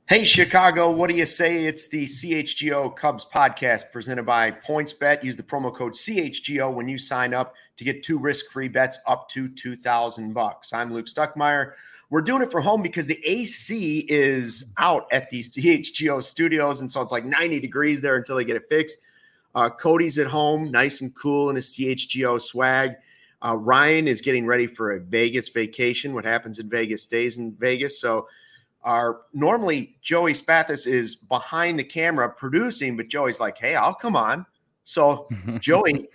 Hey, Chicago, what do you say? It's the CHGO Cubs podcast presented by PointsBet. Use the promo code CHGO when you sign up to get 2 risk-free bets up to $2,000. I'm Luke Stuckmeyer. We're doing it from home because the AC is out at the CHGO studios, and so it's like 90 degrees there until they get it fixed. Cody's at home, nice and cool in his CHGO swag. Ryan is getting ready for a Vegas vacation. What happens in Vegas stays in Vegas, so normally Joey Spathis is behind the camera producing, but Joey's like, hey, I'll come on. So Joey,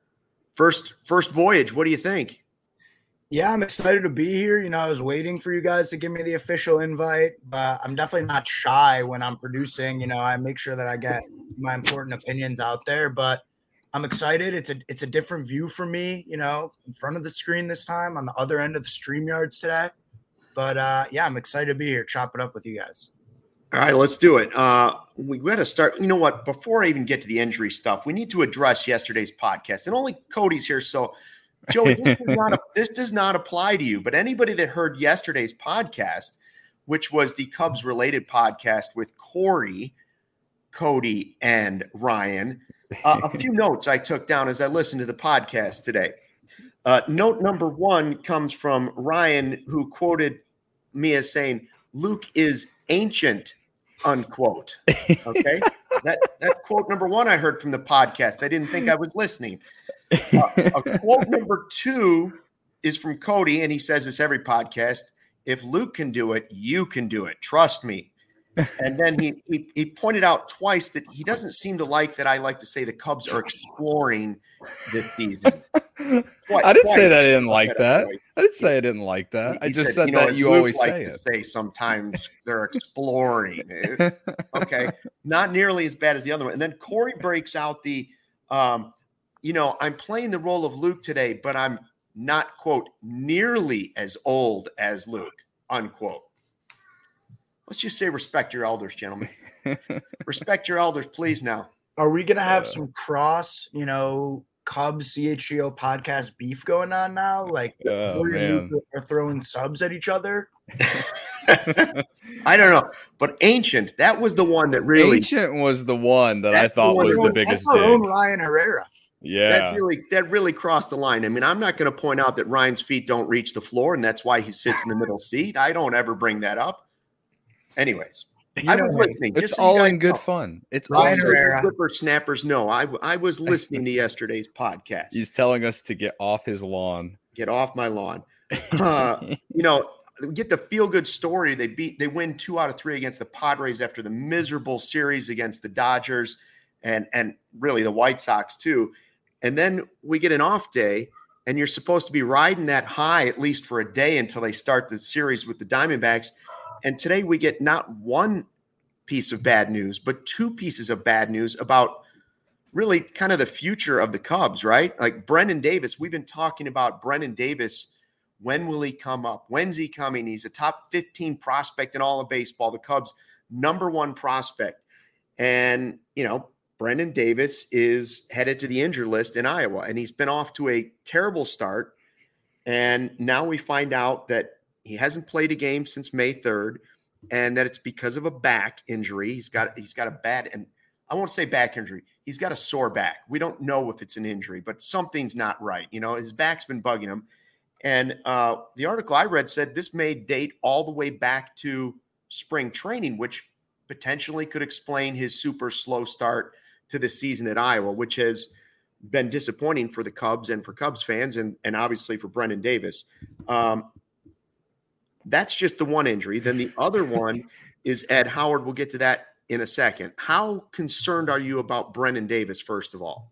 first voyage, what do you think? Yeah, I'm excited to be here. I was waiting for you guys to give me the official invite, but I'm definitely not shy when I'm producing. I make sure that I get my important opinions out there, but I'm excited. It's a different view for me, in front of the screen this time, on the other end of the StreamYards today. But yeah, I'm excited to be here, chop it up with you guys. All right, let's do it. We got to start. You know what? Before I even get to the injury stuff, we need to address yesterday's podcast. And only Cody's here, so Joey, this does not apply to you. But anybody that heard yesterday's podcast, which was the Cubs-related podcast with Corey, Cody, and Ryan, a few notes I took down as I listened to the podcast today. Note number one comes from Ryan, who quoted me as saying, Luke is ancient, unquote. Okay. that quote number one I heard from the podcast. I didn't think I was listening. Quote number two is from Cody, and he says this every podcast. If Luke can do it, you can do it. Trust me. And then he pointed out twice that he doesn't seem to like that I like to say the Cubs are exploring this season. I didn't say that I didn't like that. I didn't say I didn't like that. I just said that you always say it. Say sometimes they're exploring. Okay, not nearly as bad as the other one. And then Corey breaks out the, I'm playing the role of Luke today, but I'm not, quote, nearly as old as Luke, unquote. Let's just say respect your elders, gentlemen. Respect your elders, please now. Are we going to have some cross, Cubs CHGO podcast beef going on now? Like, are throwing subs at each other? I don't know. But Ancient, that was the one that really... Ancient was the one that I thought was the biggest dig. Own Ryan Herrera. Yeah. That really crossed the line. I mean, I'm not going to point out that Ryan's feet don't reach the floor, and that's why he sits in the middle seat. I don't ever bring that up. Anyways, I was listening. It's all in good fun. It's Ryan Herrera. Whippersnappers. No, I was listening to yesterday's podcast. He's telling us to get off his lawn. Get off my lawn. Get the feel-good story. They win 2 out of 3 against the Padres after the miserable series against the Dodgers and really the White Sox too. And then we get an off day, and you're supposed to be riding that high at least for a day until they start the series with the Diamondbacks. And today we get not one piece of bad news, but 2 pieces of bad news about really kind of the future of the Cubs, right? Like Brennen Davis, we've been talking about Brennen Davis. When will he come up? When's he coming? He's a top 15 prospect in all of baseball, the Cubs' number 1 prospect. And, Brennen Davis is headed to the injured list in Iowa, and he's been off to a terrible start. And now we find out that he hasn't played a game since May 3rd, and that it's because of a back injury. He's got a bad, and I won't say back injury. He's got a sore back. We don't know if it's an injury, but something's not right. His back's been bugging him. And the article I read said this may date all the way back to spring training, which potentially could explain his super slow start to the season at Iowa, which has been disappointing for the Cubs and for Cubs fans and obviously for Brennen Davis. That's just the one injury. Then the other one is Ed Howard. We'll get to that in a second. How concerned are you about Brennen Davis, first of all?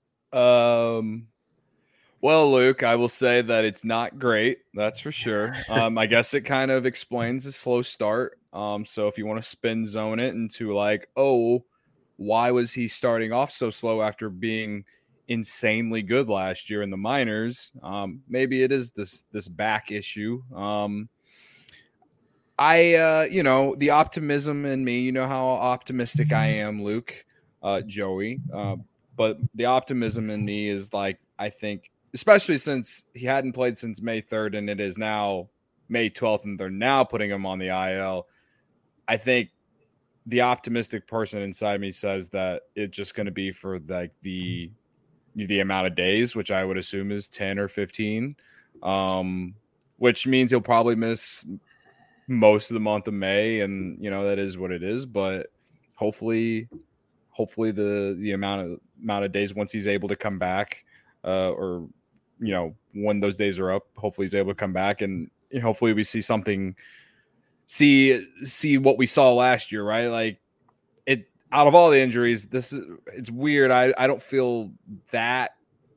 Well, Luke, I will say that it's not great. That's for sure. I guess it kind of explains the slow start. So if you want to spin zone it into like, oh, why was he starting off so slow after being insanely good last year in the minors? Maybe it is this back issue. The optimism in me, how optimistic I am, Luke, Joey. But the optimism in me is like, I think, especially since he hadn't played since May 3rd and it is now May 12th and they're now putting him on the IL. I think the optimistic person inside me says that it's just going to be for like the amount of days, which I would assume is 10 or 15, which means he'll probably miss most of the month of May, and that is what it is. But hopefully the amount of days once he's able to come back, or when those days are up, hopefully he's able to come back, and hopefully we see something. See what we saw last year, right? Like it. Out of all the injuries, it's weird. I don't feel that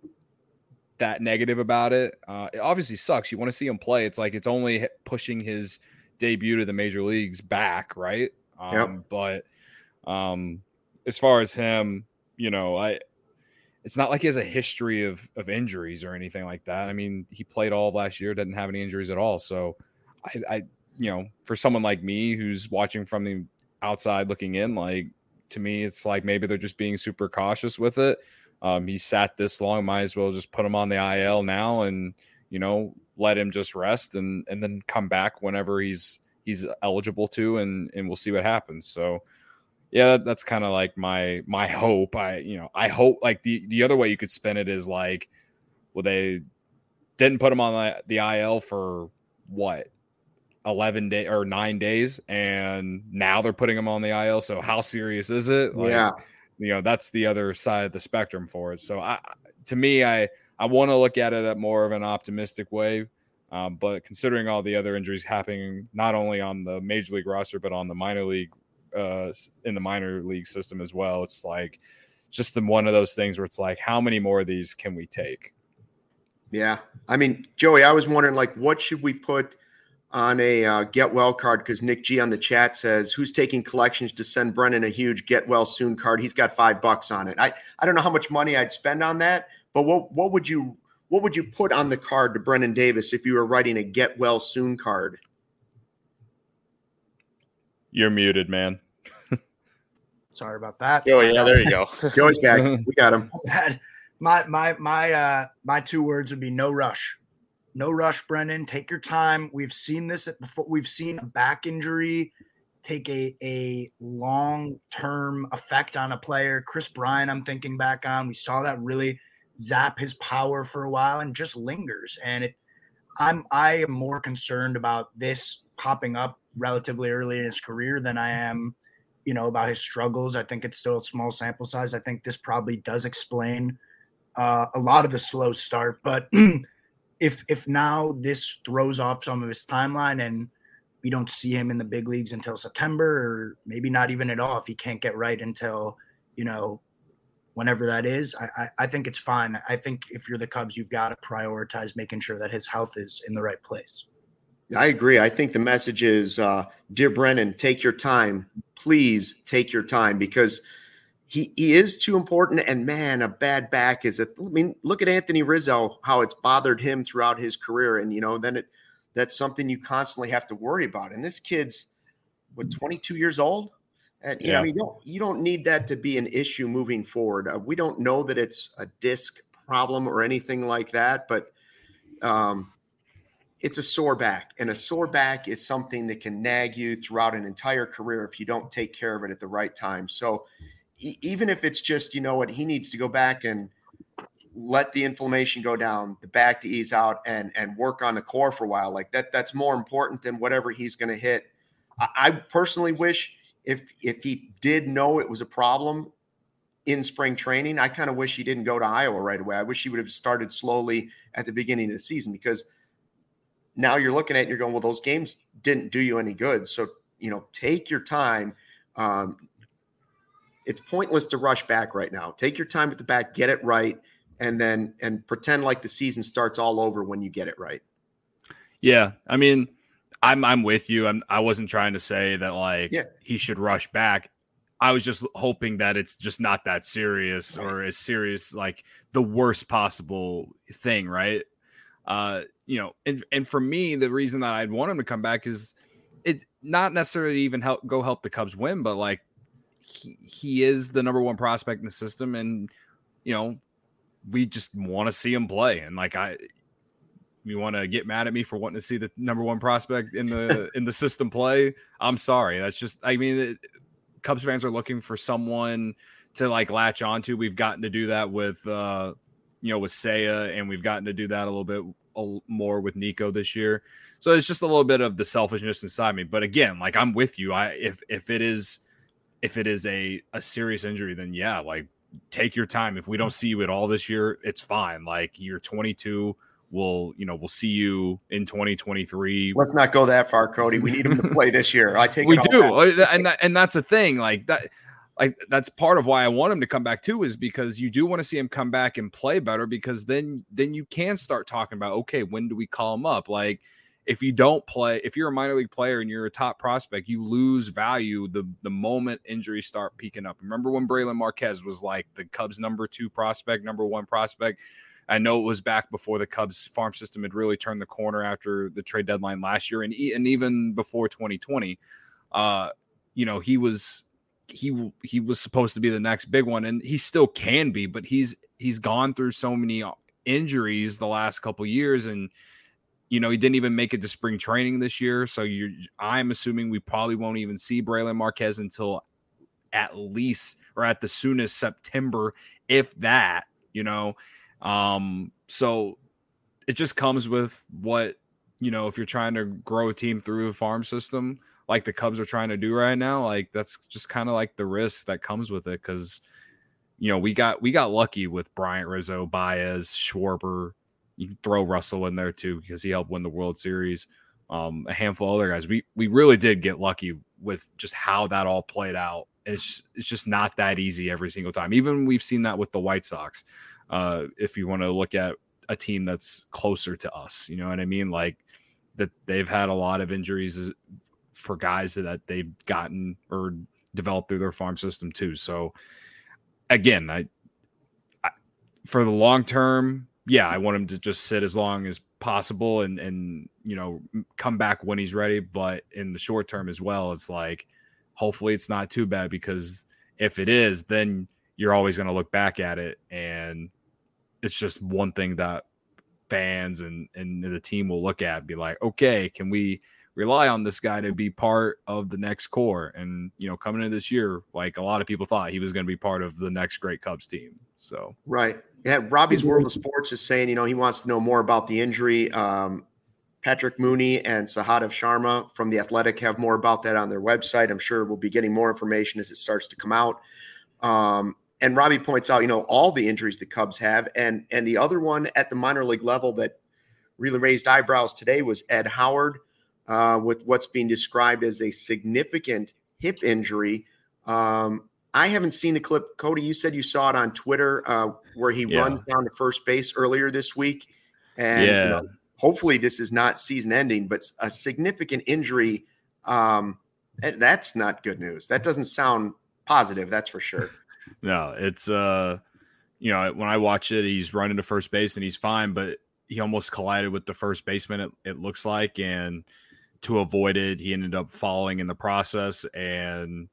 negative about it. It obviously sucks. You want to see him play. It's like it's only pushing his debut to the major leagues back, right? But as far as him, it's not like he has a history of injuries or anything like that. I mean, he played all of last year, didn't have any injuries at all. So I for someone like me who's watching from the outside looking in, like, to me, it's like maybe they're just being super cautious with it. He sat this long, might as well just put him on the IL now and, let him just rest and then come back whenever he's eligible to, and we'll see what happens. So yeah, that's kind of like my hope. I hope, like, the other way you could spin it is like, well, they didn't put him on the IL for what? 11 days or 9 days, and now they're putting him on the IL. So how serious is it? Like, that's the other side of the spectrum for it. So to me, I want to look at it at more of an optimistic way. But considering all the other injuries happening, not only on the major league roster, but on the minor league, in the minor league system as well, it's like just one of those things where it's like, how many more of these can we take? Yeah. I mean, Joey, I was wondering, like, what should we put on a get well card? Because Nick G on the chat says, who's taking collections to send Brennan a huge get well soon card? He's got $5 on it. I don't know how much money I'd spend on that, but what would you put on the card to Brennan Davis if you were writing a get well soon card? You're muted, man. Sorry about that. Oh yeah, there you go. Joey's back. We got him. My 2 words would be no rush. No rush, Brennan. Take your time. We've seen this before. We've seen a back injury take a long-term effect on a player. Chris Bryant, I'm thinking back on. We saw that really zap his power for a while and just lingers. And I am more concerned about this popping up relatively early in his career than I am, about his struggles. I think it's still a small sample size. I think this probably does explain a lot of the slow start, but if now this throws off some of his timeline and we don't see him in the big leagues until September, or maybe not even at all, if he can't get right until, whenever that is, I think it's fine. I think if you're the Cubs, you've got to prioritize making sure that his health is in the right place. I agree. I think the message is, dear Brennan, take your time. Please take your time, because he is too important. And man, a bad back look at Anthony Rizzo, how it's bothered him throughout his career. And, then that's something you constantly have to worry about. And this kid's 22 years old. And, you don't need that to be an issue moving forward. We don't know that it's a disc problem or anything like that, but it's a sore back. And a sore back is something that can nag you throughout an entire career if you don't take care of it at the right time. So even if it's just, he needs to go back and let the inflammation go down, the back to ease out, and work on the core for a while, like that's more important than whatever he's going to hit. I personally wish if he did know it was a problem in spring training, I kind of wish he didn't go to Iowa right away. I wish he would have started slowly at the beginning of the season, because now you're looking at it and you're going, well, those games didn't do you any good. So, take your time. It's pointless to rush back right now. Take your time at the back, get it right, and pretend like the season starts all over when you get it right. Yeah, I mean, I'm with you. I wasn't trying to say that he should rush back. I was just hoping that it's just not that serious, right, or as serious, like the worst possible thing, right? And for me, the reason that I'd want him to come back is it not necessarily even help the Cubs win, but like he is the number one prospect in the system, and we just want to see him play. And like you want to get mad at me for wanting to see the number one prospect in the system play? I'm sorry. That's just, Cubs fans are looking for someone to like latch onto. We've gotten to do that with with Seiya, and we've gotten to do that a little bit more with Nico this year. So it's just a little bit of the selfishness inside me. But again, like I'm with you. If it is a serious injury, then yeah, like take your time. If we don't see you at all this year, it's fine. Like you're 22. We'll see you in 2023. Let's not go that far, Cody. We need him to play this year. I take we it do, and that's the thing. Like that's part of why I want him to come back too, is because you do want to see him come back and play better, because then you can start talking about, okay, when do we call him up? Like if you don't play, if you're a minor league player and you're a top prospect, you lose value the moment injuries start peaking up. Remember when Braylon Marquez was like the Cubs number 2 prospect, number 1 prospect? I know it was back before the Cubs farm system had really turned the corner after the trade deadline last year, and even before 2020. He was supposed to be the next big one, and he still can be, but he's gone through so many injuries the last couple years, and he didn't even make it to spring training this year. So I'm assuming we probably won't even see Braylon Marquez until at least, or at the soonest, September, if that. So it just comes with what, if you're trying to grow a team through a farm system like the Cubs are trying to do right now, like that's just kind of like the risk that comes with it. Cause we got lucky with Bryant, Rizzo, Baez, Schwarber. You can throw Russell in there too, because he helped win the World Series. A handful of other guys. We really did get lucky with just how that all played out. It's just not that easy every single time. Even we've seen that with the White Sox. If you want to look at a team that's closer to us, you know what I mean? Like that they've had a lot of injuries for guys that they've gotten or developed through their farm system too. So again, I for the long term, yeah, I want him to just sit as long as possible and come back when he's ready. But in the short term as well, it's like, hopefully it's not too bad, because if it is, then you're always going to look back at it, and it's just one thing that fans and the team will look at and be like, okay, can we rely on this guy to be part of the next core? And, coming into this year, like a lot of people thought he was going to be part of the next great Cubs team. So, right. Yeah. Robbie's World of Sports is saying, he wants to know more about the injury. Patrick Mooney and Sahadev Sharma from The Athletic have more about that on their website. I'm sure we'll be getting more information as it starts to come out. And Robbie points out, all the injuries the Cubs have. And the other one at the minor league level that really raised eyebrows today was Ed Howard with what's being described as a significant hip injury. I haven't seen the clip. Cody, you said you saw it on Twitter where he runs down to first base earlier this week. And hopefully this is not season ending, but a significant injury. That's not good news. That doesn't sound positive. That's for sure. No, it's when I watch it, he's running to first base and he's fine, but he almost collided with the first baseman, it looks like, and to avoid it, he ended up falling in the process, and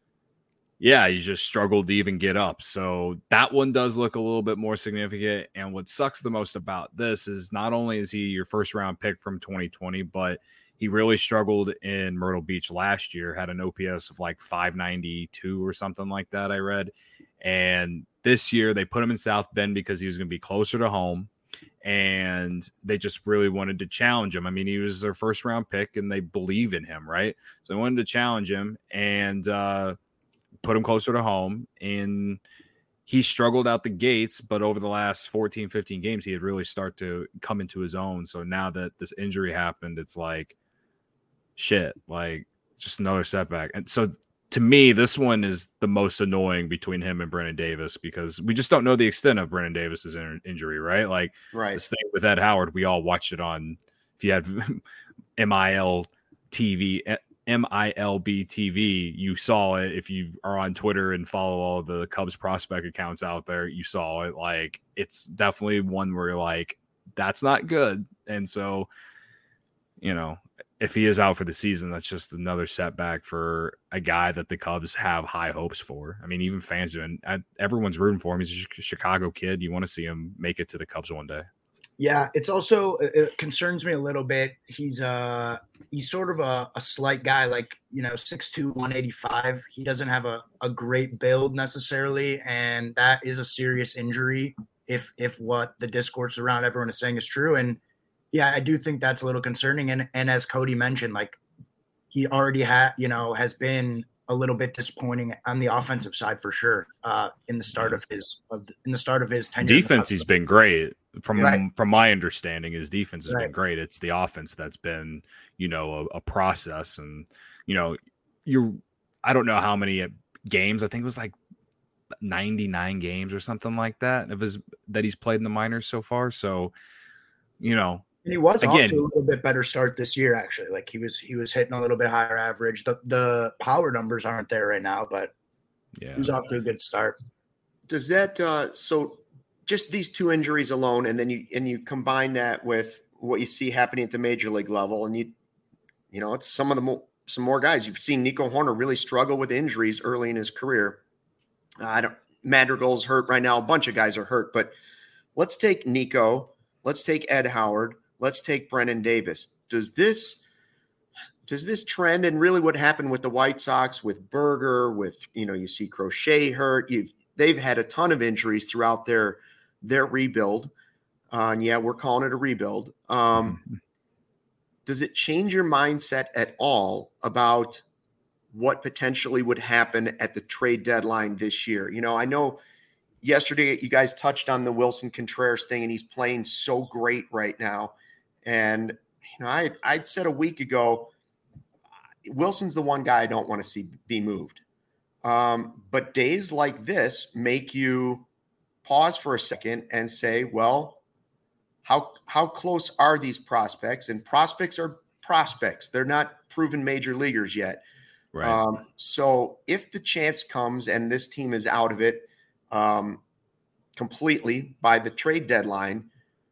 he just struggled to even get up. So that one does look a little bit more significant. And what sucks the most about this is not only is he your first round pick from 2020, but he really struggled in Myrtle Beach last year, had an OPS of like 592 or something like that, I read. And this year they put him in South Bend because he was going to be closer to home, and they just really wanted to challenge him. I mean, he was their first round pick and they believe in him, right? So they wanted to challenge him and put him closer to home. And he struggled out the gates, but over the last 14, 15 games, he had really started to come into his own. So now that this injury happened, it's like, shit, like just another setback. And so to me, this one is the most annoying between him and Brennan Davis, because we just don't know the extent of Brennan Davis's injury, right? Like this thing with Ed Howard, we all watched it on, if you had MILB TV, you saw it. If you are on Twitter and follow all the Cubs prospect accounts out there, you saw it. Like, it's definitely one where you're like, that's not good. And so, if he is out for the season, that's just another setback for a guy that the Cubs have high hopes for. I mean, even fans do, and everyone's rooting for him. He's a Chicago kid. You want to see him make it to the Cubs one day. Yeah, it's also it concerns me a little bit. He's sort of a slight guy, like 6'2", 185. He doesn't have a great build necessarily, and that is a serious injury if what the discourse around everyone is saying is true. And yeah, I do think that's a little concerning. And as Cody mentioned, like he already has been a little bit disappointing on the offensive side for sure. In the start of his tenure. Defense, he's been great. Right. From my understanding, his defense has Right. been great. It's the offense that's been, a process. And, I don't know how many games. I think it was like 99 games or something like that that he's played in the minors so far. So, And he was again, off to a little bit better start this year, actually. Like he was hitting a little bit higher average. The power numbers aren't there right now, but yeah, he was off to a good start. Does that so just these two injuries alone, and then you combine that with what you see happening at the major league level, and it's some more guys. You've seen Nico Horner really struggle with injuries early in his career. Madrigal's hurt right now. A bunch of guys are hurt, but let's take Nico. Let's take Ed Howard. Let's take Brennan Davis. Does this trend, and really what happened with the White Sox with Berger, with you see Crochet hurt. They've had a ton of injuries throughout their rebuild. And yeah, we're calling it a rebuild. Does it change your mindset at all about what potentially would happen at the trade deadline this year? I know yesterday you guys touched on the Wilson Contreras thing, and he's playing so great right now. And I'd said a week ago, Wilson's the one guy I don't want to see be moved. But days like this make you pause for a second and say, well, how close are these prospects? And prospects are prospects. They're not proven major leaguers yet. right. So if the chance comes and this team is out of it completely by the trade deadline,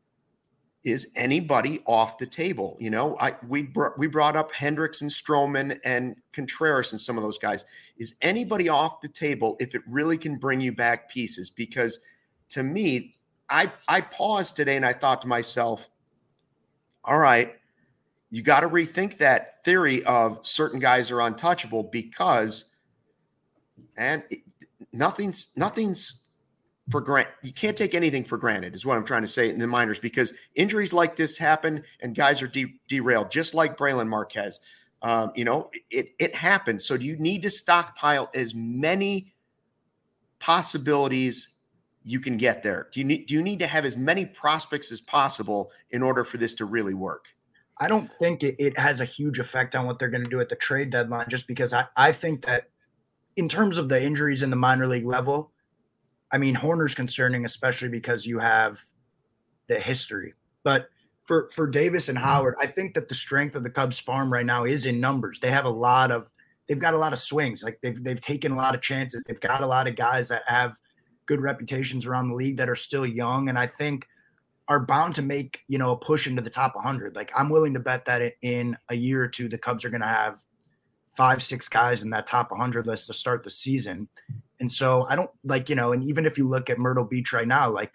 is anybody off the table? We brought up Hendricks and Stroman and Contreras and some of those guys. Is anybody off the table if it really can bring you back pieces? Because to me, I paused today and I thought to myself, all right, you got to rethink that theory of certain guys are untouchable, because nothing's for granted. You can't take anything for granted is what I'm trying to say in the minors, because injuries like this happen and guys are derailed, just like Braylon Marquez. It happens. So do you need to stockpile as many possibilities you can get there? Do you need to have as many prospects as possible in order for this to really work? I don't think it has a huge effect on what they're going to do at the trade deadline, just because I think that in terms of the injuries in the minor league level, I mean, Horner's concerning, especially because you have the history. But for Davis and Howard, I think that the strength of the Cubs farm right now is in numbers. They've got a lot of swings. Like they've taken a lot of chances. They've got a lot of guys that have good reputations around the league that are still young, and I think are bound to make, a push into the top 100. Like I'm willing to bet that in a year or two, the Cubs are going to have 5-6 guys in that top 100 list to start the season. And so I don't and even if you look at Myrtle Beach right now, like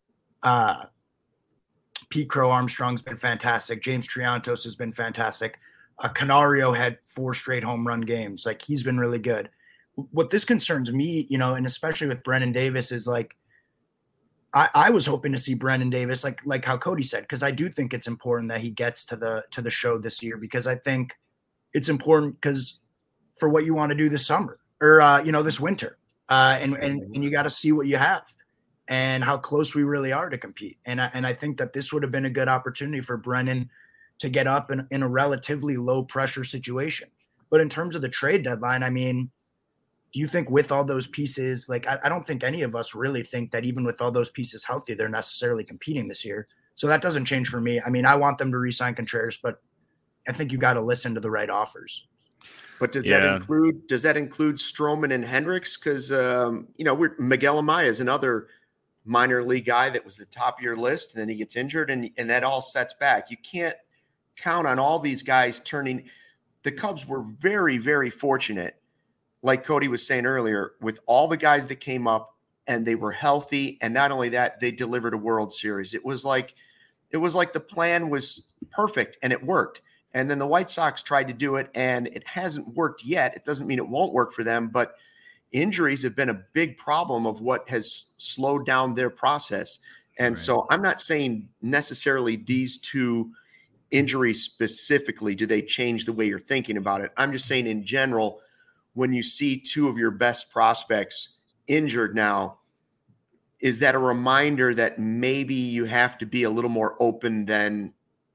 Pete Crow Armstrong's been fantastic. James Triantos has been fantastic. Canario had 4 straight home run games. Like he's been really good. What this concerns me, and especially with Brennan Davis, is like I was hoping to see Brennan Davis, like how Cody said, because I do think it's important that he gets to the show this year, because I think it's important because for what you want to do this summer or this winter, and you got to see what you have and how close we really are to compete. And I think that this would have been a good opportunity for Brennan to get up in a relatively low pressure situation. But in terms of the trade deadline, I mean, do you think with all those pieces, like I don't think any of us really think that even with all those pieces healthy, they're necessarily competing this year. So that doesn't change for me. I mean, I want them to re-sign Contreras, but I think you got to listen to the right offers. But does that include Stroman and Hendricks? Because Miguel Amaya is another minor league guy that was the top of your list, and then he gets injured, and that all sets back. You can't count on all these guys turning. The Cubs were very, very fortunate, like Cody was saying earlier, with all the guys that came up and they were healthy. And not only that, they delivered a World Series. It was like It was like the plan was perfect and it worked. And then the White Sox tried to do it and it hasn't worked yet. It doesn't mean it won't work for them, but injuries have been a big problem of what has slowed down their process. And so I'm not saying necessarily these two injuries specifically, do they change the way you're thinking about it? I'm just saying in general, when you see two of your best prospects injured now, is that a reminder that maybe you have to be a little more open than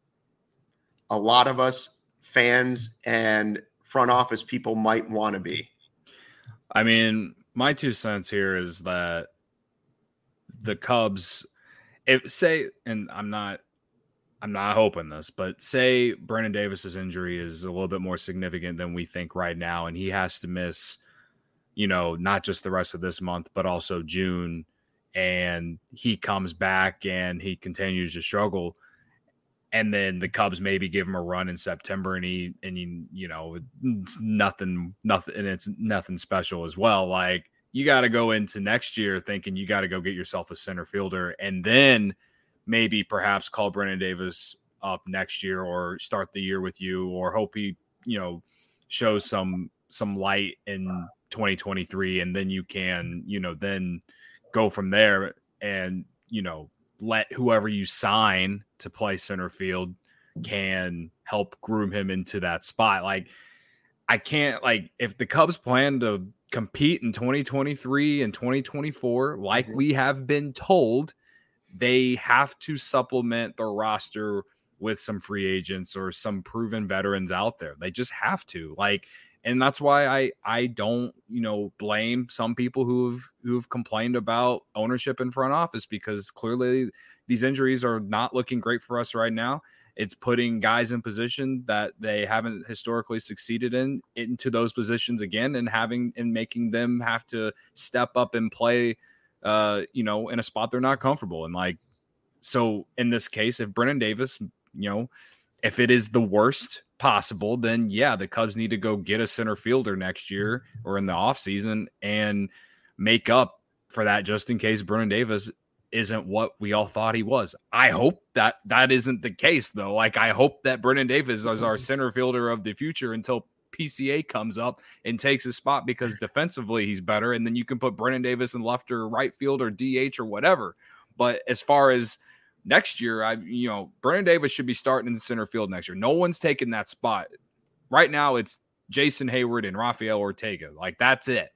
a lot of us fans and front office people might want to be? I mean, my 2 cents here is that the Cubs, and I'm not hoping this, but say Brandon Davis's injury is a little bit more significant than we think right now, and he has to miss, not just the rest of this month, but also June, and he comes back and he continues to struggle. And then the Cubs maybe give him a run in September, and it's nothing, and it's nothing special as well. Like, you got to go into next year thinking you got to go get yourself a center fielder, and then maybe perhaps call Brandon Davis up next year, or start the year with you, or hope he, shows some light in 2023, and then you can, then go from there, and let whoever you sign to play center field can help groom him into that spot. Like, I can't, if the Cubs plan to compete in 2023 and 2024, like we have been told, they have to supplement their roster with some free agents or some proven veterans out there. They just have to. And that's why I don't, blame some people who've complained about ownership in front office, because clearly these injuries are not looking great for us right now. It's putting guys in position that they haven't historically succeeded into those positions again, and making them have to step up and play, in a spot they're not comfortable. And so in this case, if Brennan Davis, if it is the worst possible, then yeah, the Cubs need to go get a center fielder next year or in the offseason and make up for that, just in case Brennan Davis isn't what we all thought he was. I hope that isn't the case, though. I hope that Brennan Davis is our center fielder of the future until PCA comes up and takes his spot, because defensively he's better, and then you can put Brennan Davis in left or right field or DH or whatever. But as far as next year, Brennan Davis should be starting in the center field next year. No one's taking that spot. Right now, it's Jason Hayward and Rafael Ortega. That's it.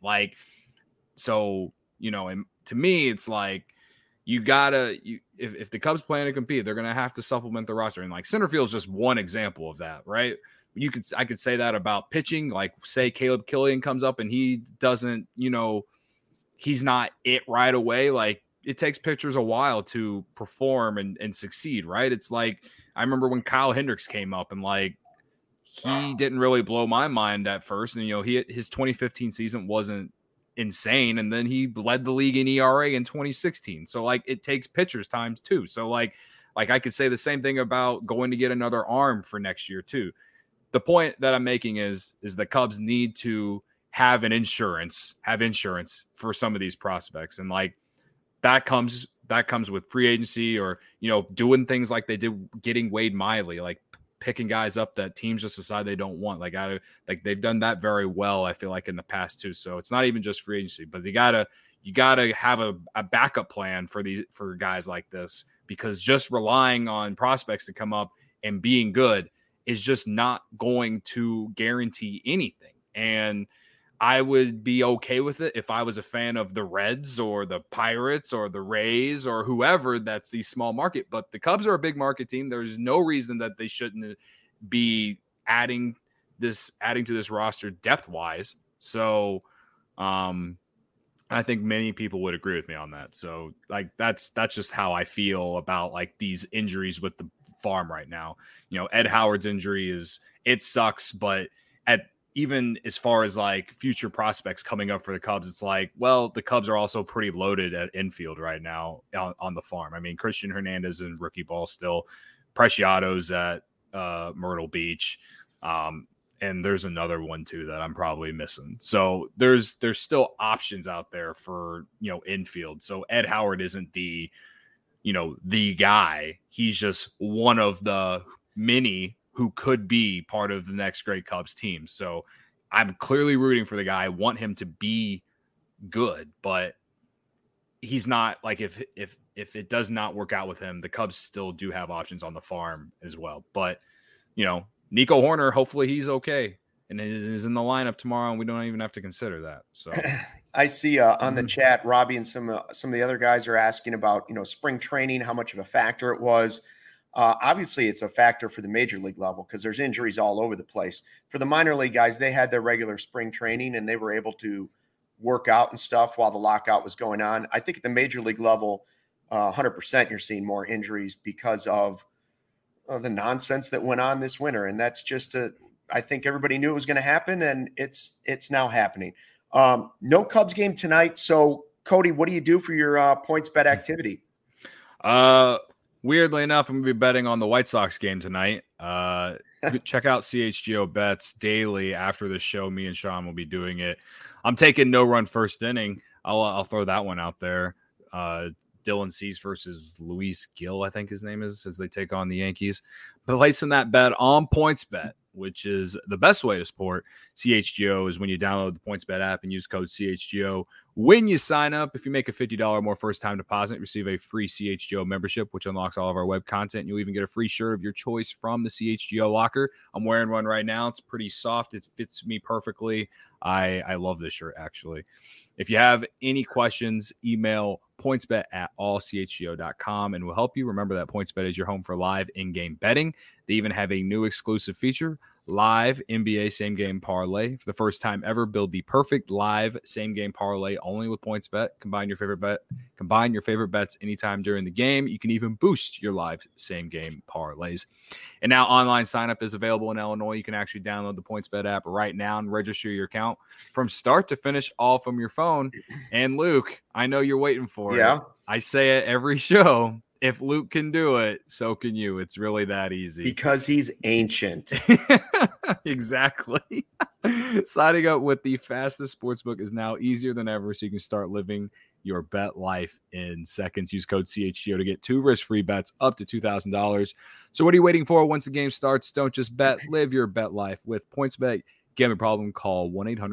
So, and to me, it's you gotta, if the Cubs plan to compete, they're gonna have to supplement the roster. And center field is just one example of that, right? I could say that about pitching. Say Caleb Killian comes up and he doesn't, he's not it right away. It takes pitchers a while to perform and succeed, right? It's I remember when Kyle Hendricks came up, and he didn't really blow my mind at first. And, his 2015 season wasn't insane. And then he led the league in ERA in 2016. So it takes pitchers times too. So I could say the same thing about going to get another arm for next year too. The point that I'm making is the Cubs need to have insurance for some of these prospects. And that comes with free agency, or, doing things like they did getting Wade Miley, picking guys up that teams just decide they don't want. They've done that very well, I feel in the past too. So it's not even just free agency, but you gotta have a backup plan for guys like this, because just relying on prospects to come up and being good is just not going to guarantee anything. And I would be okay with it if I was a fan of the Reds or the Pirates or the Rays or whoever that's the small market. But the Cubs are a big market team. There's no reason that they shouldn't be adding to this roster depth-wise. So I think many people would agree with me on that. So that's just how I feel about these injuries with the farm right now. Ed Howard's injury it sucks, but even as far as future prospects coming up for the Cubs, it's the Cubs are also pretty loaded at infield right now on the farm. I mean, Christian Hernandez in rookie ball still, Preciado's at Myrtle Beach. And there's another one too that I'm probably missing. So there's still options out there for, infield. So Ed Howard isn't the the guy. He's just one of the many who could be part of the next great Cubs team. So I'm clearly rooting for the guy. I want him to be good, but he's not like if it does not work out with him, the Cubs still do have options on the farm as well. But Nico Horner, hopefully he's okay and is in the lineup tomorrow, and we don't even have to consider that. So I see on the chat, Robbie and some of the other guys are asking about spring training, how much of a factor it was. Obviously, it's a factor for the major league level because there's injuries all over the place. For the minor league guys, they had their regular spring training and they were able to work out and stuff while the lockout was going on. I think at the major league level, 100% you're seeing more injuries because of the nonsense that went on this winter. And that's just I think everybody knew it was going to happen, and it's now happening. No Cubs game tonight. So, Cody, what do you do for your PointsBet activity? Weirdly enough, I'm going to be betting on the White Sox game tonight. Check out CHGO Bets daily after the show. Me and Sean will be doing it. I'm taking no run first inning. I'll throw that one out there. Dylan Cease versus Luis Gil, I think his name is, as they take on the Yankees. Placing that bet on PointsBet, which is the best way to support CHGO, is when you download the PointsBet app and use code CHGO. When you sign up, if you make a $50 or more first-time deposit, receive a free CHGO membership, which unlocks all of our web content. You'll even get a free shirt of your choice from the CHGO locker. I'm wearing one right now. It's pretty soft. It fits me perfectly. I love this shirt, actually. If you have any questions, email pointsbet@allchgo.com, and we'll help you. Remember that PointsBet is your home for live in-game betting. They even have a new exclusive feature, live NBA same-game parlay. For the first time ever, build the perfect live same-game parlay only with PointsBet. Combine your favorite bets anytime during the game. You can even boost your live same-game parlays. And now online sign-up is available in Illinois. You can actually download the PointsBet app right now and register your account from start to finish, all from your phone. And Luke, I know you're waiting for it. I say it every show. If Luke can do it, so can you. It's really that easy. Because he's ancient. Exactly. Signing up with the fastest sportsbook is now easier than ever, so you can start living your bet life in seconds. Use code CHGO to get 2 risk-free bets up to $2,000. So what are you waiting for? Once the game starts, don't just bet. Live your bet life with PointsBet. Gambling problem? Call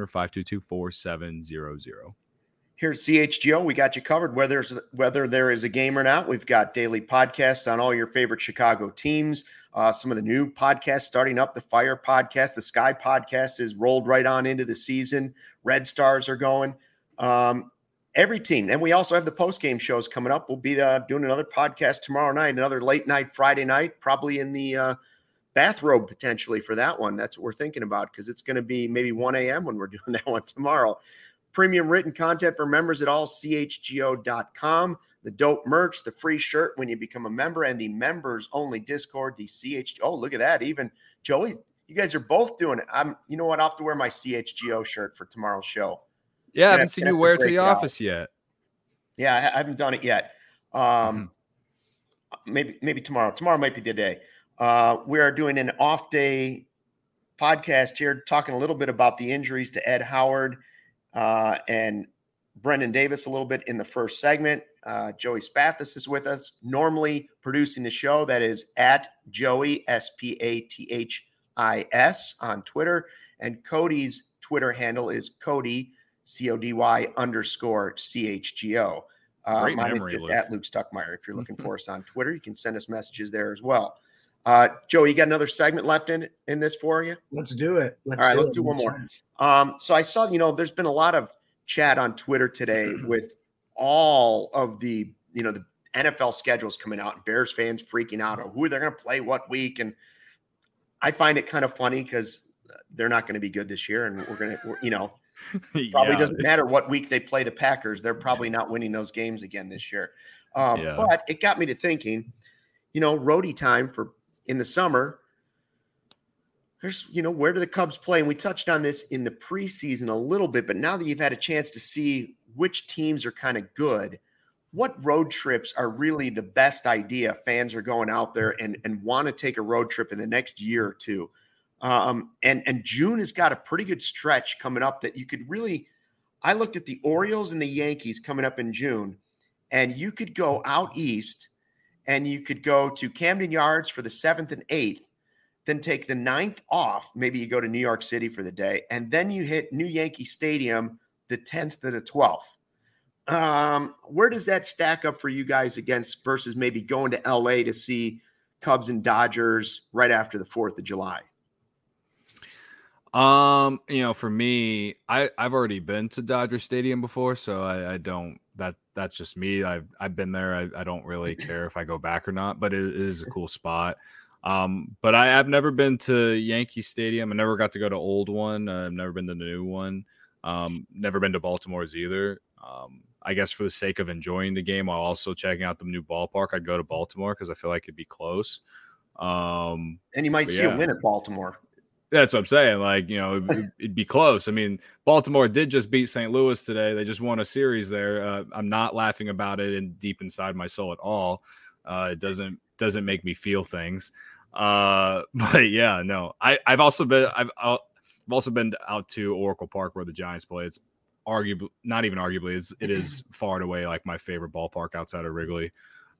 1-800-522-4700. Here at CHGO, we got you covered whether there is a game or not. We've got daily podcasts on all your favorite Chicago teams. Some of the new podcasts starting up, the Fire podcast, the Sky podcast is rolled right on into the season. Red Stars are going. Every team. And we also have the post-game shows coming up. We'll be doing another podcast tomorrow night, another late night Friday night, probably in the bathrobe potentially for that one. That's what we're thinking about because it's going to be maybe 1 a.m. when we're doing that one tomorrow. Premium written content for members at allchgo.com. The dope merch, the free shirt when you become a member, and the members-only Discord, the CHGO. Oh, look at that. Even Joey, you guys are both doing it. You know what? I'll have to wear my CHGO shirt for tomorrow's show. Yeah, I haven't seen you wear it to the office yet. Yeah, I haven't done it yet. Maybe tomorrow. Tomorrow might be the day. We are doing an off-day podcast here, talking a little bit about the injuries to Ed Howard and Brendan Davis a little bit in the first segment. Joey Spathis is with us, normally producing the show. That is at Joey, Spathis on Twitter. And Cody's Twitter handle is Cody, CODY_CHGO. Great mine memory, is just Luke. at Luke Stuckmeyer. If you're looking for us on Twitter, you can send us messages there as well. Joey, you got another segment left in this for you? Let's do it. Let's do one more. So I saw, there's been a lot of chat on Twitter today with all of the NFL schedules coming out and Bears fans freaking out on who they're going to play what week. And I find it kind of funny because they're not going to be good this year. And probably doesn't matter what week they play the Packers. They're probably not winning those games again this year. But it got me to thinking, roadie time in the summer, there's, where do the Cubs play? And we touched on this in the preseason a little bit, but now that you've had a chance to see which teams are kind of good, what road trips are really the best idea? Fans are going out there and want to take a road trip in the next year or two. And June has got a pretty good stretch coming up that you could really, I looked at the Orioles and the Yankees coming up in June, and you could go out east and you could go to Camden Yards for the 7th and 8th, then take the 9th off. Maybe you go to New York City for the day, and then you hit New Yankee Stadium the 10th to the 12th. Where does that stack up for you guys against versus maybe going to LA to see Cubs and Dodgers right after the 4th of July? For me, I've already been to Dodger Stadium before, so I don't that's just me. I've been there. I don't really care if I go back or not, but it is a cool spot. But I've never been to Yankee Stadium. I never got to go to old one. I've never been to the new one. Never been to Baltimore's either. I guess for the sake of enjoying the game while also checking out the new ballpark, I'd go to Baltimore because I feel like it'd be close. And you might see a win at Baltimore. That's what I'm saying. Like, it'd be close. I mean, Baltimore did just beat St. Louis today. They just won a series there. I'm not laughing about it and deep inside my soul at all. It doesn't make me feel things. But yeah, no. I've also been out to Oracle Park where the Giants play. It's arguably, not even arguably, it is far and away like my favorite ballpark outside of Wrigley.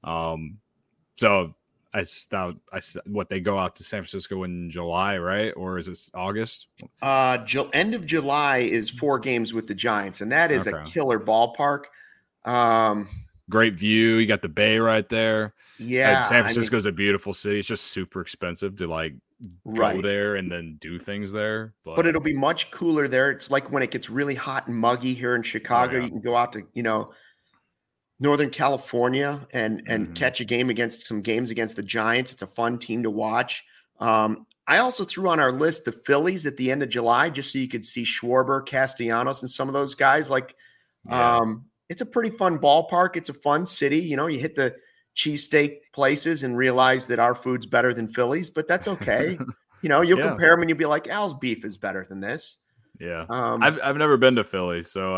So what they go out to San Francisco in July, right? Or is it August? End of July is 4 games with the Giants, and that is a killer ballpark. Great view. You got the bay right there. Yeah, San Francisco is a beautiful city. It's just super expensive to go there and then do things there. But it'll be much cooler there. It's like when it gets really hot and muggy here in Chicago, you can go out to, Northern California and catch a game against the Giants. It's a fun team to watch. I also threw on our list the Phillies at the end of July, just so you could see Schwarber, Castellanos, and some of those guys. It's a pretty fun ballpark. It's a fun city. You hit the cheesesteak places and realize that our food's better than Philly's, but that's okay. You'll compare them and you'll be like, Al's beef is better than this. Yeah. I've never been to Philly, so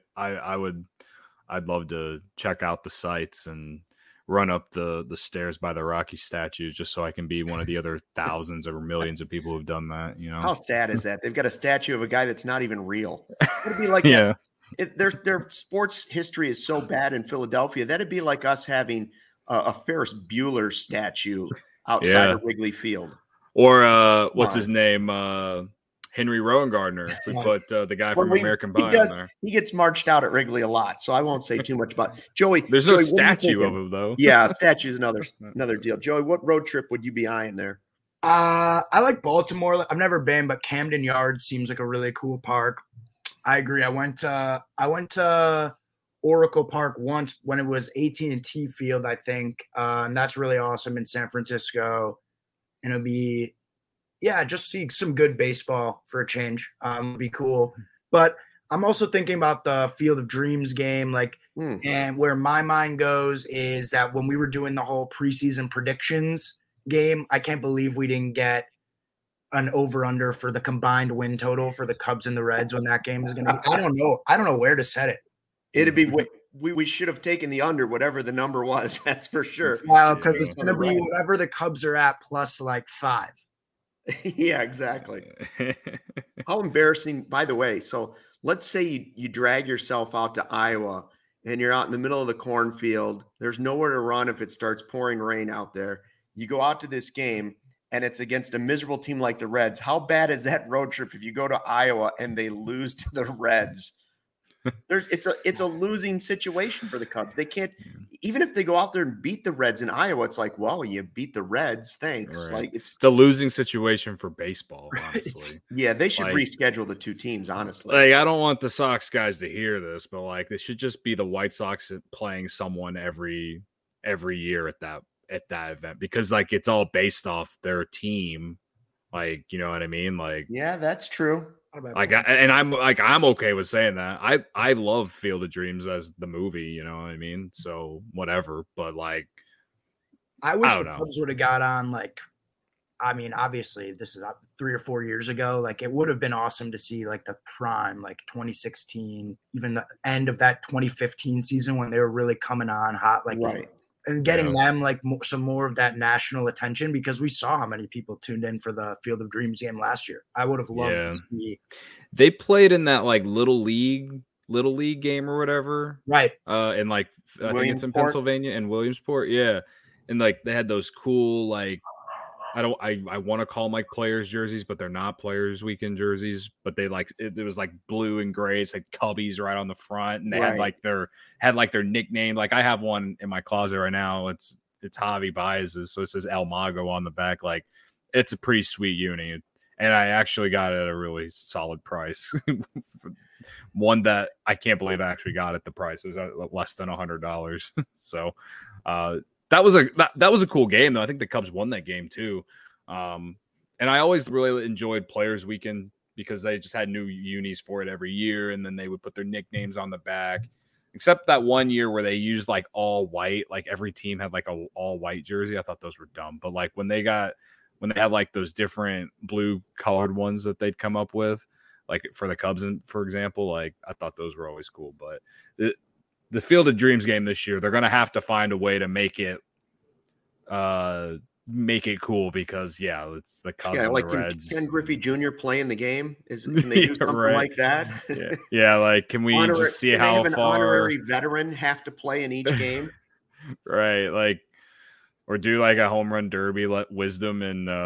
I'd love to check out the sites and run up the stairs by the Rocky statues just so I can be one of the other thousands or millions of people who've done that. How sad is that? They've got a statue of a guy that's not even real. It'd be like their sports history is so bad in Philadelphia. That'd be like us having a Ferris Bueller statue outside of Wrigley Field. Or what's his name? Henry Rowengartner. If we put the guy from American Pie on there. He gets marched out at Wrigley a lot, so I won't say too much about Joey. There's no statue of him, though. Yeah, statue is another deal. Joey, what road trip would you be eyeing there? I like Baltimore. I've never been, but Camden Yards seems like a really cool park. I agree. I went to Oracle Park once when it was AT&T Field, I think, and that's really awesome in San Francisco. And it'll be, just see some good baseball for a change. It'd be cool. But I'm also thinking about the Field of Dreams game, and where my mind goes is that when we were doing the whole preseason predictions game, I can't believe we didn't get an over-under for the combined win total for the Cubs and the Reds when that game is going to be. I don't know where to set it. It'd be we should have taken the under, whatever the number was. That's for sure. Well, because it's going to be whatever the Cubs are at plus 5. Yeah, exactly. How embarrassing, by the way. So let's say you drag yourself out to Iowa and you're out in the middle of the cornfield. There's nowhere to run if it starts pouring rain out there. You go out to this game and it's against a miserable team like the Reds. How bad is that road trip if you go to Iowa and they lose to the Reds? It's a losing situation for the Cubs. They can't, even if they go out there and beat the Reds in Iowa, it's like, well, you beat the Reds, thanks. Right. It's a losing situation for baseball, honestly. Yeah, they should reschedule the two teams, honestly. I don't want the Sox guys to hear this, but they should just be the White Sox playing someone every year at that event, because it's all based off their team. You know what I mean? Yeah, that's true. I'm okay with saying that. I love Field of Dreams as the movie, you know what I mean? So whatever, but I wish the Cubs would have got on obviously this is 3 or 4 years ago. It would have been awesome to see the prime, 2016, even the end of that 2015 season when they were really coming on hot, right. And getting them some more of that national attention, because we saw how many people tuned in for the Field of Dreams game last year. I would have loved to see. They played in that little league game or whatever, right? I think it's in Pennsylvania and Williamsport, yeah. and like they had those cool like I want to call them like players jerseys, but they're not players weekend jerseys. But they like it was like blue and gray. It's like Cubbies right on the front, and they had like their nickname. Like I have one in my closet right now. It's Javi Baez's, so it says El Mago on the back. Like it's a pretty sweet uni, and I actually got it at a really solid price. One that I can't believe I actually got at the price. It was less than $100. So. That was a cool game though. I think the Cubs won that game too. And I always really enjoyed Players Weekend because they just had new unis for it every year, and then they would put their nicknames on the back. Except that one year where they used like all white, like every team had like a all white jersey. I thought those were dumb. But like when they had like those different blue colored ones that they'd come up with, like for the Cubs, for example, like I thought those were always cool. But the Field of Dreams game this year, they're going to have to find a way to make it cool because it's the Cubs and like the Reds. Ken Griffey Jr. play in the game? Can they do something like that? Yeah, like can we just see how an far honorary veteran have to play in each game? Right, like or do like a home run derby, let Wisdom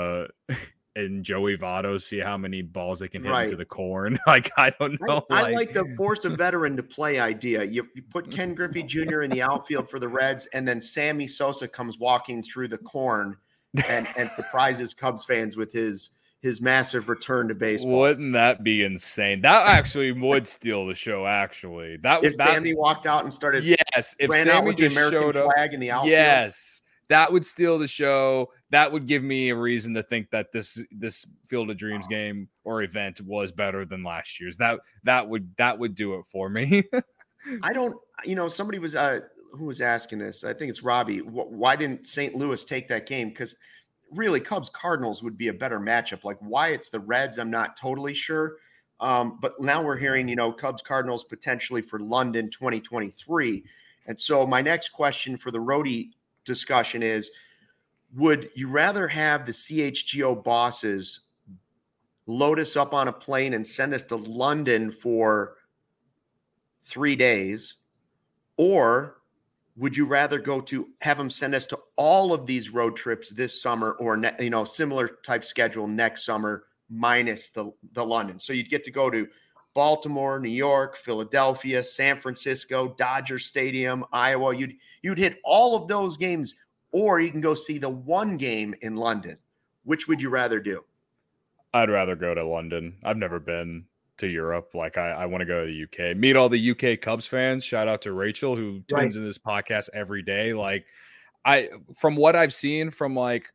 and Joey Votto see how many balls they can hit into the corn. Like, I don't know. I like the force a veteran to play idea. You put Ken Griffey Jr. in the outfield for the Reds, and then Sammy Sosa comes walking through the corn and surprises Cubs fans with his massive return to baseball. Wouldn't that be insane? That actually would steal the show, actually. If Sammy walked out and started if Sammy just showed up flag in the outfield. Yes. That would steal the show. That would give me a reason to think that this Field of Dreams game or event was better than last year's. That would do it for me. I don't. Somebody was who was asking this. I think it's Robbie. Why didn't St. Louis take that game? Because really, Cubs Cardinals would be a better matchup. Like why it's the Reds, I'm not totally sure. But now we're hearing Cubs Cardinals potentially for London 2023. And so my next question for the roadie discussion is, would you rather have the CHGO bosses load us up on a plane and send us to London for 3 days, or would you rather have them send us to all of these road trips this summer, or similar type schedule next summer minus the London? So you'd get to go to Baltimore, New York, Philadelphia, San Francisco, Dodger Stadium, Iowa. You'd hit all of those games, or you can go see the one game in London. Which would you rather do? I'd rather go to London. I've never been to Europe. Like I want to go to the UK, meet all the UK Cubs fans. Shout out to Rachel who tunes in this podcast every day. Like from what I've seen from like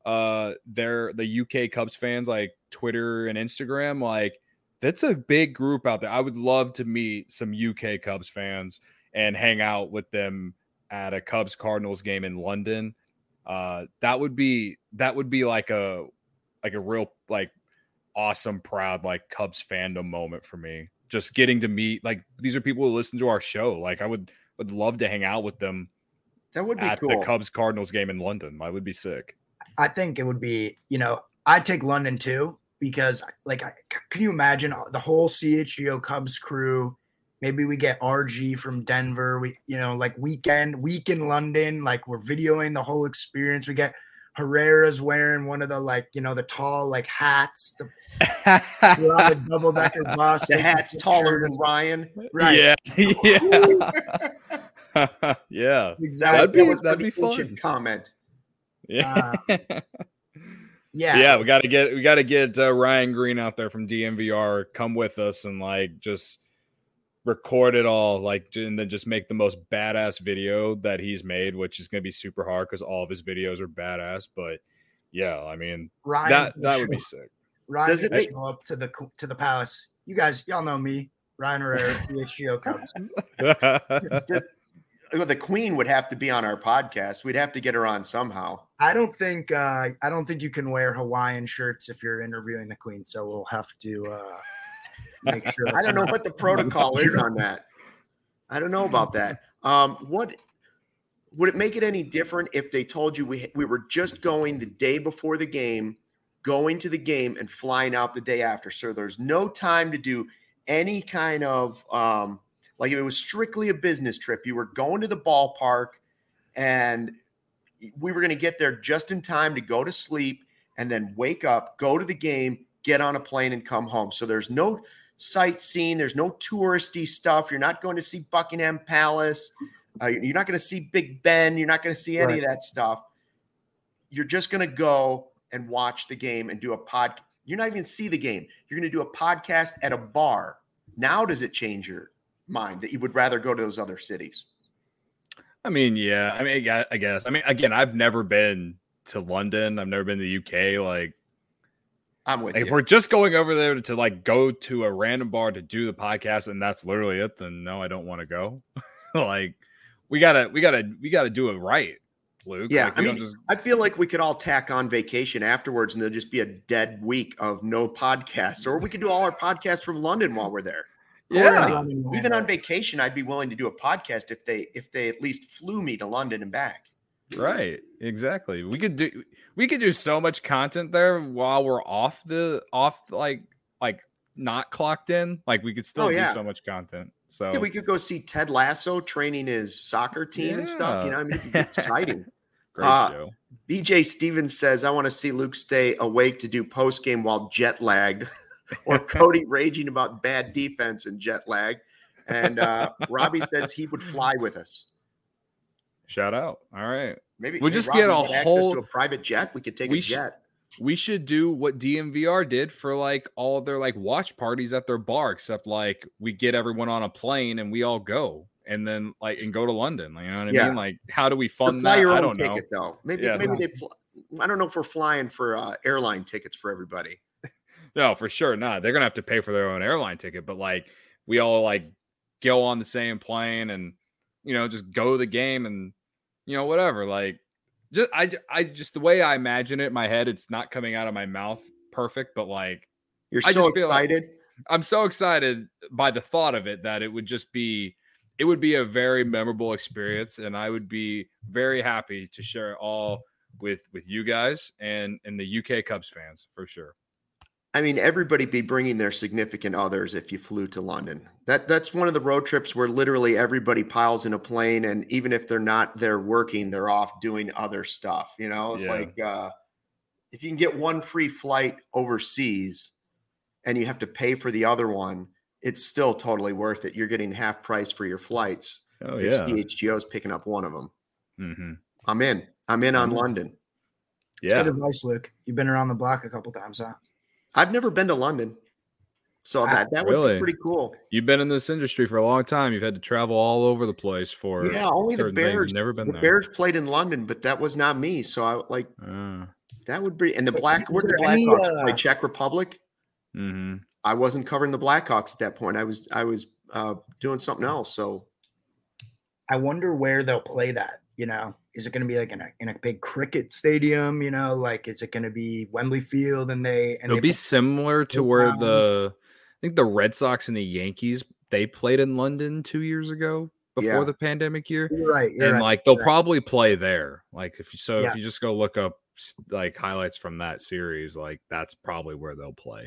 the UK Cubs fans, like Twitter and Instagram, like that's a big group out there. I would love to meet some UK Cubs fans and hang out with them at a Cubs Cardinals game in London. That would be like a real like awesome, proud like Cubs fandom moment for me. Just getting to meet like these are people who listen to our show. Like I would love to hang out with them. That would be at cool. The Cubs Cardinals game in London. I would be sick. I think it would be, I'd take London too, because like, can you imagine the whole CHGO Cubs crew? Maybe we get RG from Denver. We, like week in London, like we're videoing the whole experience. We get Herrera's wearing one of the the tall like hats. We're on the double decker bus. The hat's taller than Ryan. Right. Yeah. Yeah. Exactly. That'd be fun. Comment. Yeah. Yeah. We got to get Ryan Green out there from DMVR. Come with us and like just record it all, like, and then just make the most badass video that he's made, which is going to be super hard because all of his videos are badass. But yeah, I mean, that would be sick. Ryan's going to show up to the Palace. You guys, y'all know me, Ryan Herrera, CHGO Cubs. The Queen would have to be on our podcast. We'd have to get her on somehow. I don't think you can wear Hawaiian shirts if you're interviewing the Queen, so we'll have to make sure. I don't know what the protocol is on that. I don't know about that. What would it make it any different if they told you we were just going the day before the game, going to the game, and flying out the day after? So there's no time to do any kind of like if it was strictly a business trip, you were going to the ballpark and we were going to get there just in time to go to sleep and then wake up, go to the game, get on a plane and come home. So there's no sightseeing. There's no touristy stuff. You're not going to see Buckingham Palace. You're not going to see Big Ben. You're not going to see any of that stuff. You're just going to go and watch the game and do a pod. You're not even see the game. You're going to do a podcast at a bar. Now does it change your mind that you would rather go to those other cities? I mean, yeah. I mean, I guess. I mean, again, I've never been to London. I've never been to the UK. Like, I'm with you. If we're just going over there to like go to a random bar to do the podcast and that's literally it, then no, I don't want to go. Like, we gotta do it right, Luke. Yeah, like, I mean, I feel like we could all tack on vacation afterwards, and there'll just be a dead week of no podcasts, or we could do all our podcasts from London while we're there. Yeah, even on vacation, I'd be willing to do a podcast if they at least flew me to London and back. Right, exactly. We could do so much content there while we're off like not clocked in. Like, we could still do so much content. So yeah, we could go see Ted Lasso training his soccer team and stuff. You know, I mean, it'd be exciting. Great show. BJ Stevens says, I want to see Luke stay awake to do post game while jet lagged, or Cody raging about bad defense and jet lag. And Robbie says he would fly with us. Shout out. All right. Maybe we'll just Robbie get access to a private jet. We could take a jet. We should do what DMVR did for like all of their like watch parties at their bar, except like we get everyone on a plane and we all go and then and go to London. You know what I mean? Like, how do we fund that? Your I own don't ticket, know. Though. Maybe I don't know if we're flying for airline tickets for everybody. No, for sure not. They're gonna have to pay for their own airline ticket, but like we all like go on the same plane and just go to the game and whatever. Like, just the way I imagine it in my head, it's not coming out of my mouth perfect, but like you're so excited. I'm so excited by the thought of it that it would be a very memorable experience, and I would be very happy to share it all with you guys and the UK Cubs fans for sure. I mean, everybody be bringing their significant others if you flew to London. That's one of the road trips where literally everybody piles in a plane, and even if they're not there working, they're off doing other stuff. It's like if you can get one free flight overseas and you have to pay for the other one, it's still totally worth it. You're getting half price for your flights. Oh, if yeah. CHGO is picking up one of them. Mm-hmm. I'm in on London. Yeah. Good advice, Luke. You've been around the block a couple times, huh? I've never been to London. So that really? would be pretty cool. You've been in this industry for a long time. You've had to travel all over the place for only the Bears. Never been there. Bears played in London, but that was not me. So I that would be. And the Blackhawks play Czech Republic. Mm-hmm. I wasn't covering the Blackhawks at that point. I was doing something else. So I wonder where they'll play that. Is it going to be like in a big cricket stadium? Like, is it going to be Wembley Field? It'll be similar to where I think the Red Sox and the Yankees, they played in London 2 years ago before the pandemic year. You're right. They'll probably play there. Like, if you just go look up like highlights from that series, like that's probably where they'll play.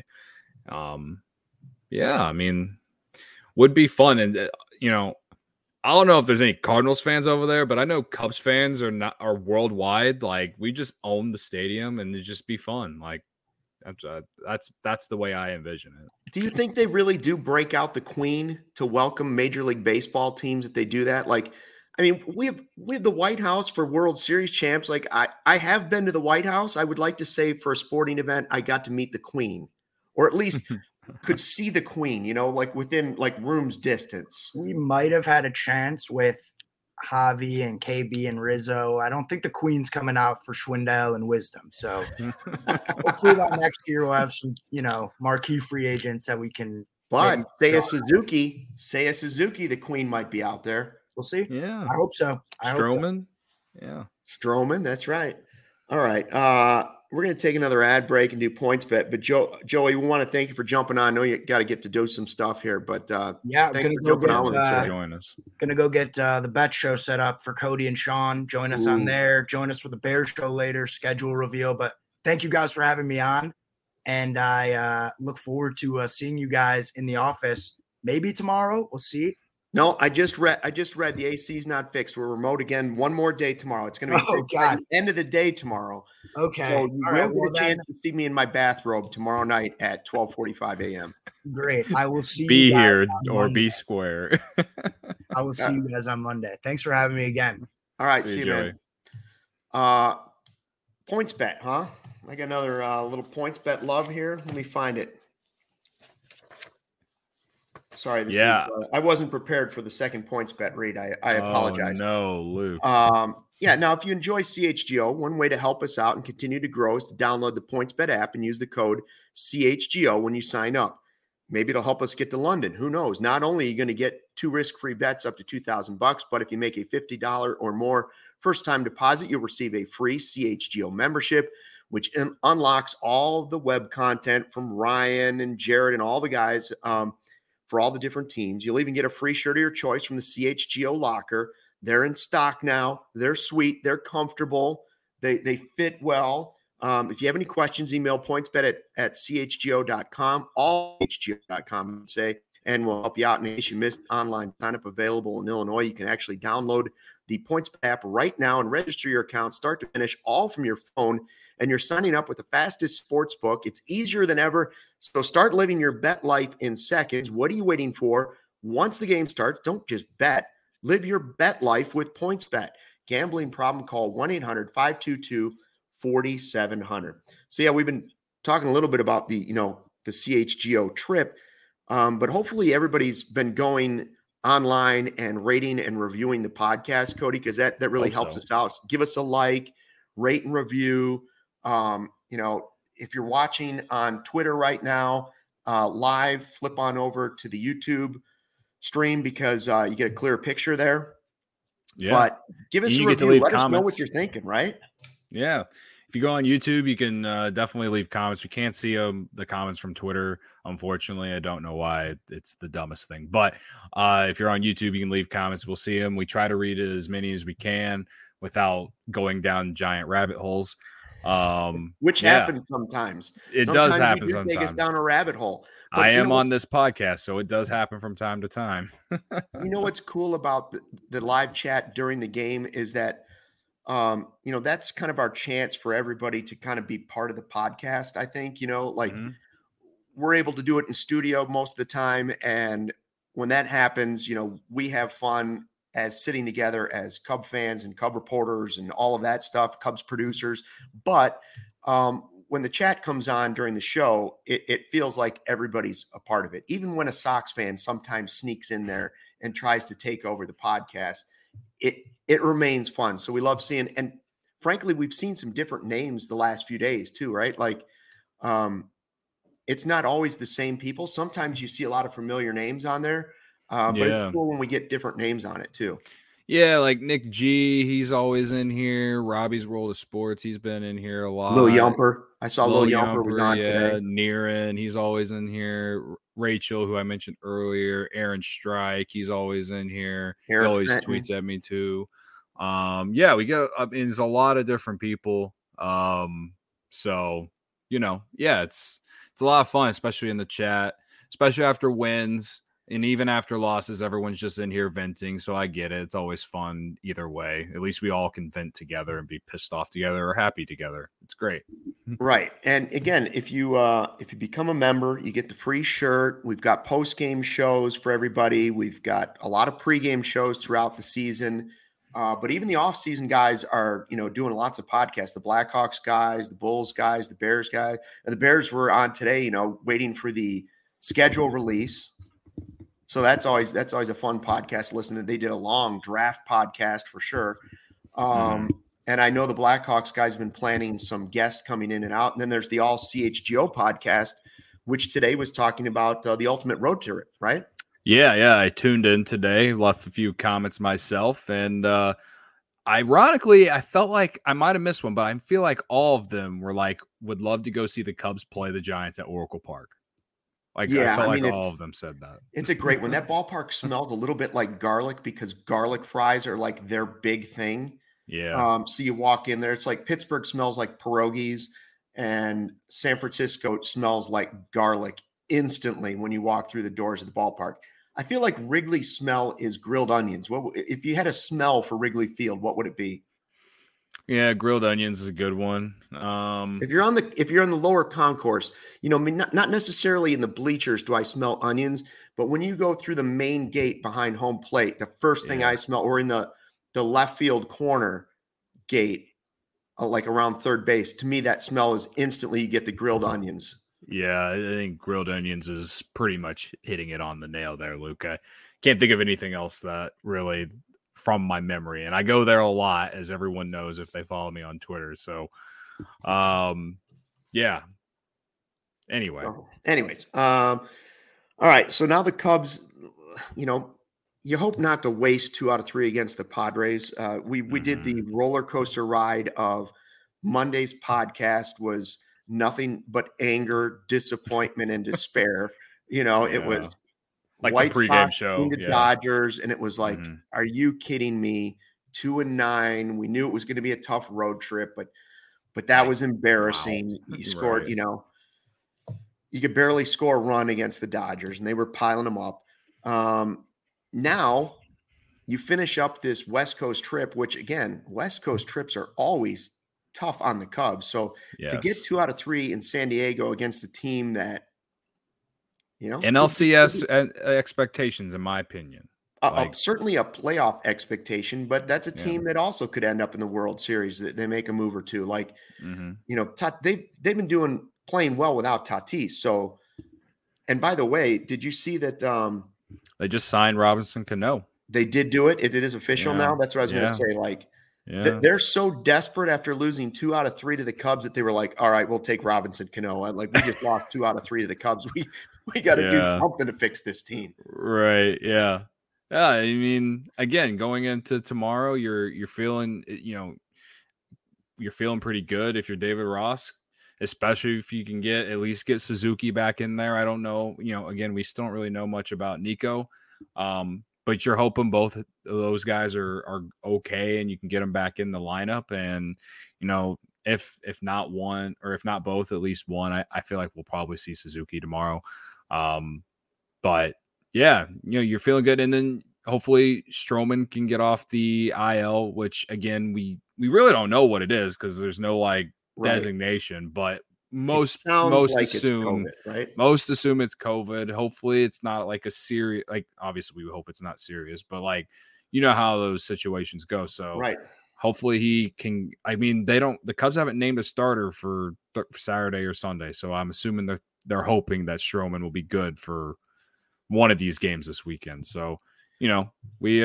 I mean, would be fun. And I don't know if there's any Cardinals fans over there, but I know Cubs fans are worldwide. Like, we just own the stadium and it'd just be fun. Like, that's the way I envision it. Do you think they really do break out the Queen to welcome Major League Baseball teams if they do that? Like, I mean, we have the White House for World Series champs. Like, I have been to the White House. I would like to say for a sporting event, I got to meet the Queen, or at least could see the Queen, like within like room's distance. We might have had a chance with Javi and KB and Rizzo. I don't think the Queen's coming out for Schwindel and Wisdom. So hopefully by next year we'll have some, marquee free agents that we can. But Seiya Suzuki, the Queen might be out there. We'll see. Yeah. I hope so. Stroman. Yeah. Stroman. That's right. All right. We're going to take another ad break and do points bet. But Joey, we want to thank you for jumping on. I know you got to get to do some stuff here, but I'm going to join us. Going to go get the bet show set up for Cody and Sean. Join us on there. Join us for the Bears show later. Schedule reveal. But thank you guys for having me on, and I look forward to seeing you guys in the office. Maybe tomorrow. We'll see. No, I just read the AC's not fixed. We're remote again. One more day tomorrow. It's going to be God. the end of the day tomorrow. Okay. So you will get a chance to see me in my bathrobe tomorrow night at 12:45 a.m. Great. I will see Be you guys here on or Monday. be square. I will see you guys on Monday. Thanks for having me again. All right. See you, Joey. man. Points bet, huh? I got another little points bet love here. Let me find it. Sorry, I wasn't prepared for the second points bet read. I apologize. No, Luke. Now if you enjoy CHGO, one way to help us out and continue to grow is to download the PointsBet app and use the code CHGO when you sign up. Maybe it'll help us get to London. Who knows? Not only are you going to get 2 risk-free bets up to $2,000, but if you make a $50 or more first-time deposit, you'll receive a free CHGO membership, which unlocks all of the web content from Ryan and Jared and all the guys for all the different teams. You'll even get a free shirt of your choice from the CHGO locker. They're in stock now. They're sweet. They're comfortable. They fit well. If you have any questions, email pointsbet at chgo.com, all chgo.com, and we'll help you out. In case you missed online sign-up available in Illinois, you can actually download the PointsBet app right now and register your account start to finish all from your phone. And you're signing up with the fastest sports book. It's easier than ever. So start living your bet life in seconds. What are you waiting for? Once the game starts, don't just bet. Live your bet life with PointsBet. Gambling problem, call 1-800-522-4700. So yeah, we've been talking a little bit about the CHGO trip, but hopefully everybody's been going online and rating and reviewing the podcast, Cody, because that really helps us out. So give us a like, rate and review. If you're watching on Twitter right now, live, flip on over to the YouTube stream because you get a clear picture there. Yeah. But give us a review. Let us know what you're thinking, right? Yeah. If you go on YouTube, you can definitely leave comments. We can't see the comments from Twitter, unfortunately. I don't know why. It's the dumbest thing. But if you're on YouTube, you can leave comments. We'll see them. We try to read as many as we can without going down giant rabbit holes. Which happens sometimes. It does happen sometimes. Take us down a rabbit hole. But I am on this podcast, so it does happen from time to time. You know what's cool about the live chat during the game is that that's kind of our chance for everybody to kind of be part of the podcast. I think, we're able to do it in studio most of the time. And when that happens, we have fun as sitting together as Cub fans and Cub reporters and all of that stuff, Cubs producers. But when the chat comes on during the show, it feels like everybody's a part of it. Even when a Sox fan sometimes sneaks in there and tries to take over the podcast, it remains fun. So we love seeing, and frankly, we've seen some different names the last few days too, right? Like it's not always the same people. Sometimes you see a lot of familiar names on there. But it's cool when we get different names on it too. Yeah, like Nick G, he's always in here. Robbie's World of Sports, he's been in here a lot. Lil Yumper. I saw Lil Yumper was on today. Niren, he's always in here. Rachel, who I mentioned earlier. Aaron Strike, he's always in here. He always tweets at me too. We get there's a lot of different people. It's a lot of fun, especially in the chat, especially after wins. And even after losses, everyone's just in here venting. So I get it. It's always fun either way. At least we all can vent together and be pissed off together or happy together. It's great. Right. And again, if you become a member, you get the free shirt. We've got post-game shows for everybody. We've got a lot of pregame shows throughout the season. But even the off-season guys are, doing lots of podcasts. The Blackhawks guys, the Bulls guys, the Bears guys. And the Bears were on today, waiting for the schedule release. So that's always a fun podcast to listen to. They did a long draft podcast for sure. And I know the Blackhawks guys have been planning some guests coming in and out. And then there's the All CHGO podcast, which today was talking about the ultimate road trip, right? Yeah. I tuned in today, left a few comments myself. And ironically, I felt like I might have missed one, but I feel like all of them were like, would love to go see the Cubs play the Giants at Oracle Park. I felt like all of them said that. It's a great one. That ballpark smells a little bit like garlic because garlic fries are like their big thing. Yeah. So you walk in there, it's like Pittsburgh smells like pierogies and San Francisco smells like garlic instantly when you walk through the doors of the ballpark. I feel like Wrigley smell is grilled onions. If you had a smell for Wrigley Field, what would it be? Yeah, grilled onions is a good one. If you're on the lower concourse, I mean, not necessarily in the bleachers do I smell onions, but when you go through the main gate behind home plate, the first thing I smell, or in the left field corner gate, like around third base, to me that smell is instantly you get the grilled onions. Yeah, I think grilled onions is pretty much hitting it on the nail there, Luke. I can't think of anything else that really from my memory. And I go there a lot, as everyone knows if they follow me on Twitter. So, yeah. Anyway. Anyways, all right. So now the Cubs, you hope not to waste 2 out of 3 against the Padres. We did the roller coaster ride of Monday's podcast was nothing but anger, disappointment, and despair. It was like White the pregame Sox show, the Dodgers, and it was like, are you kidding me? 2-9. We knew it was going to be a tough road trip, but that was embarrassing. Wow. You scored, you could barely score a run against the Dodgers, and they were piling them up. Now you finish up this West Coast trip, which again, West Coast trips are always tough on the Cubs. So to get 2 out of 3 in San Diego against a team that, NLCS expectations, in my opinion, certainly a playoff expectation, but that's a team that also could end up in the World Series. That they make a move or two. Like, they've been playing well without Tatis. So, and by the way, did you see that they just signed Robinson Cano? They did do it. It is official now. That's what I was going to say. Like, they're so desperate after losing 2 out of 3 to the Cubs that they were like, all right, we'll take Robinson Cano. Like, we just lost 2 out of 3 to the Cubs. We got to do something to fix this team. Right. Yeah. Yeah. I mean, again, going into tomorrow, you're feeling, you're feeling pretty good if you're David Ross, especially if you can at least get Suzuki back in there. I don't know. Again, we still don't really know much about Nico. But you're hoping both of those guys are okay and you can get them back in the lineup. And, if not one or if not both, at least one, I feel like we'll probably see Suzuki tomorrow. But yeah, you're feeling good. And then hopefully Stroman can get off the IL, which again, we really don't know what it is because there's no designation, but most assume it's COVID, right? Most assume it's COVID. Hopefully it's not like a serious, obviously we hope it's not serious, but how those situations go. So hopefully he can. I mean, the Cubs haven't named a starter for Saturday or Sunday, so I'm assuming they're hoping that Stroman will be good for one of these games this weekend. So we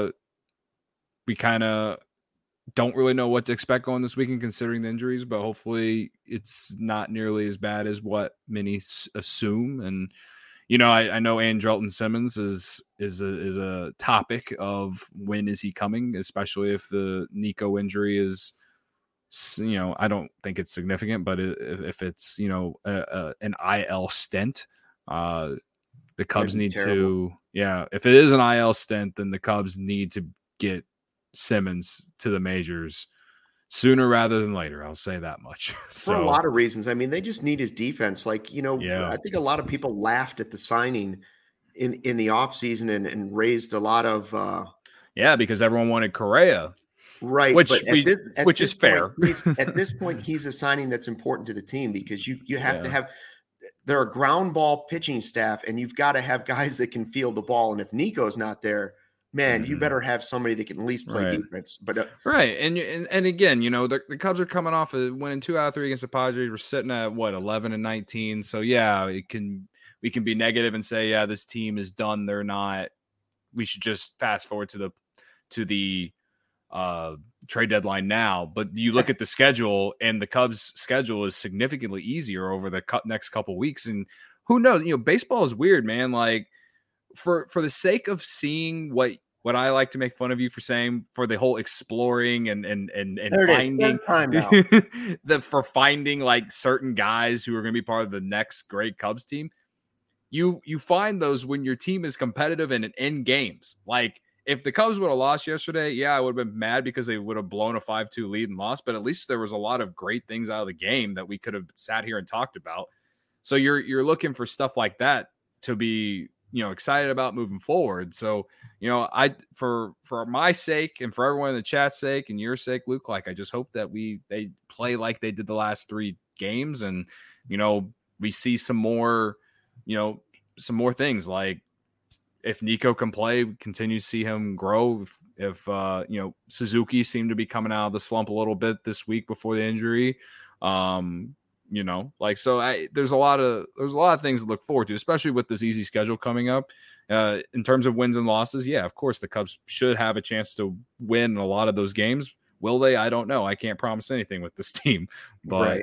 kind of don't really know what to expect going this weekend considering the injuries, but hopefully it's not nearly as bad as what many assume. And, I know Andrelton Simmons is a topic of when is he coming, especially if the Nico injury is, I don't think it's significant, but if it's, an IL stint, the Cubs need to, if it is an IL stint, then the Cubs need to get Simmons to the majors sooner rather than later. I'll say that much. For a lot of reasons. I mean, they just need his defense. I think a lot of people laughed at the signing in the offseason and raised a lot of because everyone wanted Correa. Right. Which point, is fair. At this point, he's a signing that's important to the team because you have to have they're a ground ball pitching staff, and you've got to have guys that can field the ball. And if Nico's not there, man, you better have somebody that can at least play defense. But and again, the Cubs are coming off of winning 2 out of 3 against the Padres. We're sitting at 11-19. So we can be negative and say, this team is done. They're not. We should just fast forward to the trade deadline now. But you look at the schedule, and the Cubs' schedule is significantly easier over the next couple weeks. And who knows? Baseball is weird, man. Like for the sake of seeing what I like to make fun of you for saying, for the whole exploring and finding for finding certain guys who are going to be part of the next great Cubs team. You find those when your team is competitive and in games. Like if the Cubs would have lost yesterday, I would have been mad because they would have blown a 5-2 lead and lost. But at least there was a lot of great things out of the game that we could have sat here and talked about. So you're looking for stuff like that to be excited about moving forward. So, I for my sake and for everyone in the chat's sake and your sake, Luke, like I just hope that they play like they did the last 3 games, and we see some more things, like if Nico can play, we continue to see him grow. If Suzuki seemed to be coming out of the slump a little bit this week before the injury. There's a lot of things to look forward to, especially with this easy schedule coming up. In terms of wins and losses, yeah, of course the Cubs should have a chance to win a lot of those games. Will they? I don't know. I can't promise anything with this team, but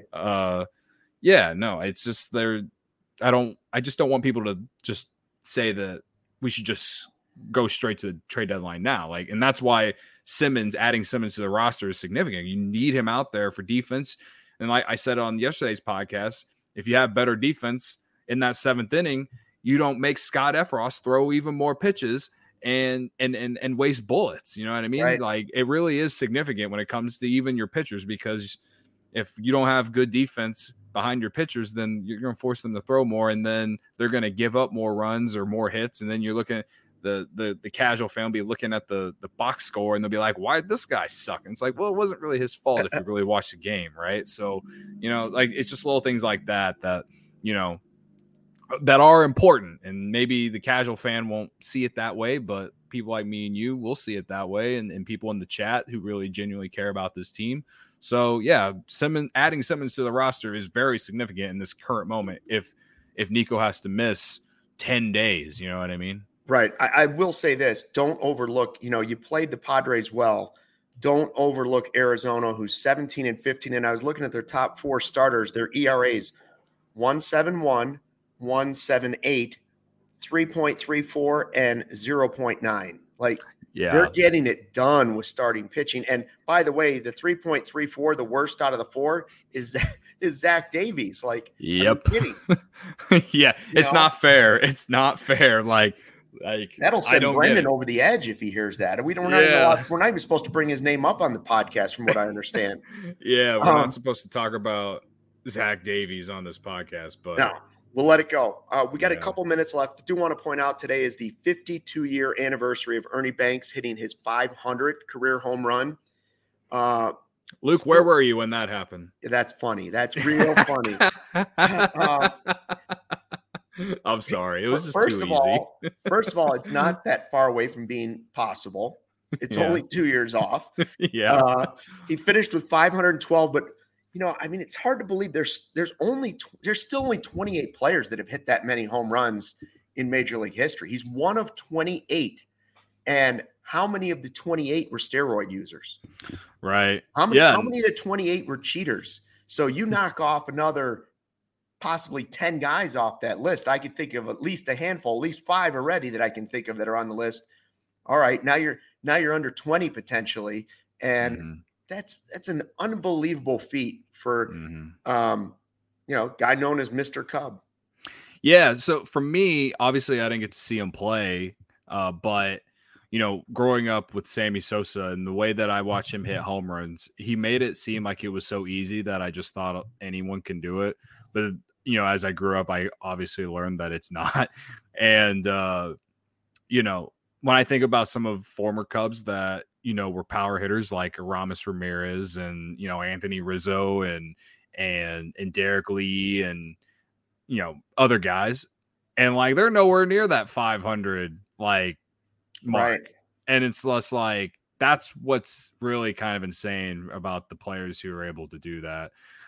it's just I just don't want people to just say that we should just go straight to the trade deadline now. And that's why adding Simmons to the roster is significant. You need him out there for defense. And like I said on yesterday's podcast, if you have better defense in that 7th inning, you don't make Scott Effross throw even more pitches and waste bullets. You know what I mean? Right. Like, it really is significant when it comes to even your pitchers, because if you don't have good defense behind your pitchers, then you're going to force them to throw more, and then they're going to give up more runs or more hits. And then you're looking at the casual fan will be looking at the box score, and they'll be like, why did this guy suck? And it's like, well, it wasn't really his fault if you really watch the game, right? So, it's just little things like that that are important. And maybe the casual fan won't see it that way, but people like me and you will see it that way, and people in the chat who really genuinely care about this team. So, yeah, adding Simmons to the roster is very significant in this current moment if Nico has to miss 10 days, you know what I mean? Right. I will say this. Don't overlook, you played the Padres well. Don't overlook Arizona, who's 17-15. And I was looking at their top 4 starters, their ERAs, 1.71, 1.78, 3.34, and 0.9. They're getting it done with starting pitching. And by the way, the 3.34, the worst out of the 4, is Zach Davies. Yep. Yeah, it's not fair. It's not fair. That'll send Brendan over the edge if he hears that. We're not even supposed to bring his name up on the podcast, from what I understand. Yeah, we're not supposed to talk about Zach Davies on this podcast, but no, we'll let it go. We got a couple minutes left. I do want to point out today is the 52-year anniversary of Ernie Banks hitting his 500th career home run. Luke, where were you when that happened? That's funny. That's real funny. I'm sorry. It was just too easy. First of all, it's not that far away from being possible. It's only 2 years off. Yeah. He finished with 512, but it's hard to believe there's still only 28 players that have hit that many home runs in Major League history. He's one of 28. And how many of the 28 were steroid users? Right. How many of the 28 were cheaters? So you knock off another possibly 10 guys off that list. I could think of at least a handful, at least 5 already that I can think of that are on the list. All right, now you're under 20 potentially, and that's an unbelievable feat for guy known as Mr. Cub. Yeah, so for me, obviously I didn't get to see him play, but growing up with Sammy Sosa and the way that I watched him hit home runs, he made it seem like it was so easy that I just thought anyone can do it. But as I grew up, I obviously learned that it's not. And, when I think about some of former Cubs that, were power hitters like Aramis Ramirez and, Anthony Rizzo and Derek Lee and, other guys. And they're nowhere near that 500 mark. Right. And it's less that's what's really kind of insane about the players who are able to do that.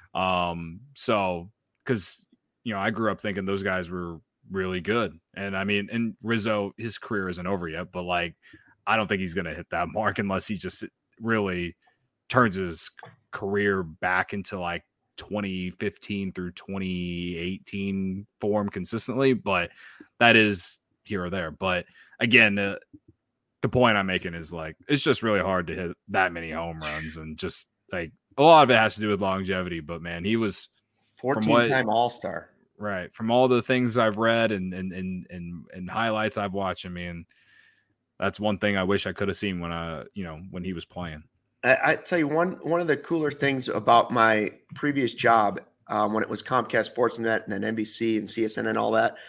Because I grew up thinking those guys were really good. And and Rizzo, his career isn't over yet, but I don't think he's going to hit that mark unless he just really turns his career back into 2015 through 2018 form consistently. But that is here or there. But again, the point I'm making is it's just really hard to hit that many home runs, and just a lot of it has to do with longevity. But man, he was 14-time All-Star. Right. From all the things I've read and highlights I've watched, that's one thing I wish I could have seen when he was playing. I tell you, one of the cooler things about my previous job when it was Comcast Sportsnet and then NBC and CSN and all that,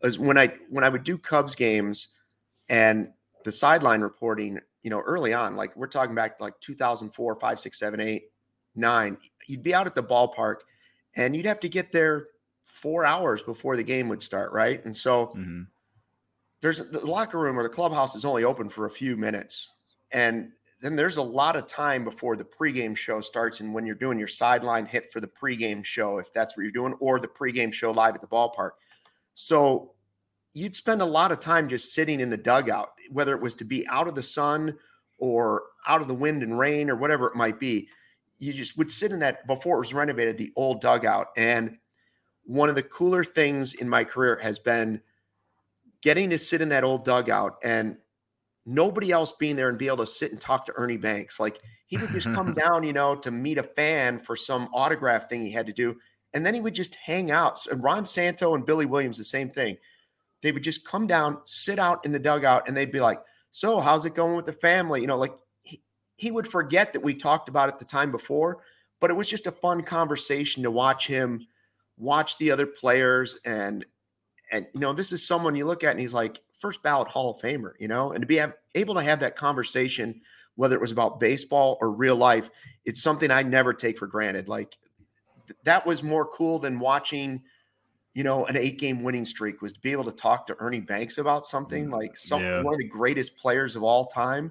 is when I would do Cubs games and the sideline reporting, early on, like we're talking back to like 2004, 5, 6, 7, 8, 9, you'd be out at the ballpark and you'd have to get there 4 hours before the game would start, right? And so there's the locker room or the clubhouse is only open for a few minutes. And then there's a lot of time before the pregame show starts. And when you're doing your sideline hit for the pregame show, if that's what you're doing, or the pregame show live at the ballpark. So you'd spend a lot of time just sitting in the dugout, whether it was to be out of the sun or out of the wind and rain or whatever it might be. You just would sit in that before it was renovated, the old dugout. And one of the cooler things in my career has been getting to sit in that old dugout and nobody else being there and be able to sit and talk to Ernie Banks. Like he would just come down, to meet a fan for some autograph thing he had to do. And then he would just hang out. And Ron Santo and Billy Williams, the same thing. They would just come down, sit out in the dugout, and they'd be like, so how's it going with the family? He would forget that we talked about it the time before, but it was just a fun conversation to watch him watch the other players. And this is someone you look at and he's like first ballot Hall of Famer, and to be able to have that conversation, whether it was about baseball or real life, it's something I never take for granted. Like that was more cool than watching, an 8-game winning streak, was to be able to talk to Ernie Banks about something like one of the greatest players of all time.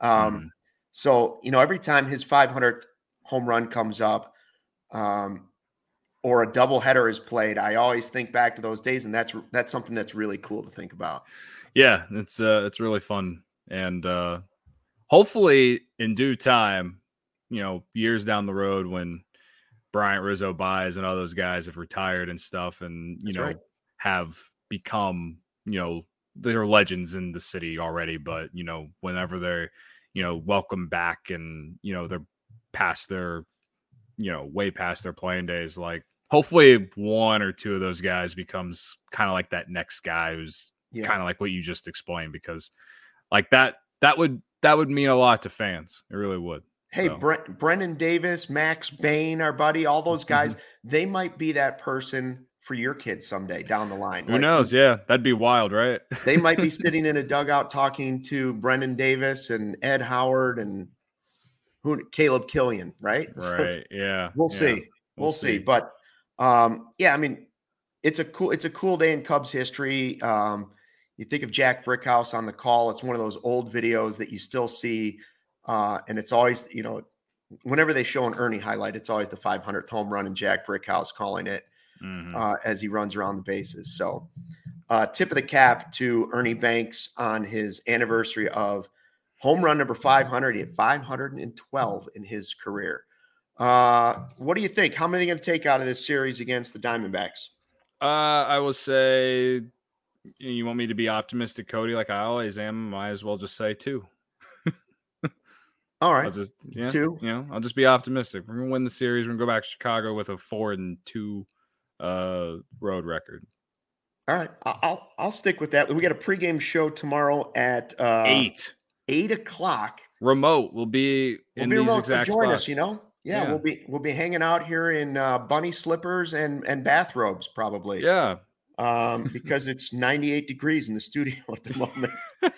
So, every time his 500th home run comes up, or a doubleheader is played, I always think back to those days, and that's something that's really cool to think about. Yeah, it's really fun, and hopefully in due time, years down the road when Bryant, Rizzo, Baez, and all those guys have retired and stuff, and have become they're legends in the city already. But whenever they're welcome back and they're past their way past their playing days, like hopefully one or two of those guys becomes kind of like that next guy who's kind of like what you just explained, because like that would mean a lot to fans. It really would. Hey, so. Brendan Davis, Max Bain, our buddy, all those guys, they might be that person for your kids someday down the line. Who knows? Yeah, that'd be wild, right? They might be sitting in a dugout talking to Brendan Davis and Ed Howard and Caleb Killian, right? Right. Yeah. We'll see. We'll see. But it's a cool day in Cubs history. You think of Jack Brickhouse on the call. It's one of those old videos that you still see. And it's always, whenever they show an Ernie highlight, it's always the 500th home run and Jack Brickhouse calling it as he runs around the bases. So tip of the cap to Ernie Banks on his anniversary of home run number 500. He had 512 in his career. What do you think? How many are going to take out of this series against the Diamondbacks? I will say, you want me to be optimistic, Cody, like I always am. Might as well just say 2. All right. I'll just 2. I'll just be optimistic. We're gonna win the series. We're gonna go back to Chicago with a 4-2 road record. All right. I'll stick with that. We got a pregame show tomorrow at 8 o'clock. Remote. We'll be in these exact join spots. Us, Yeah, we'll be hanging out here in bunny slippers and bathrobes probably. Yeah. Because it's 98 degrees in the studio at the moment.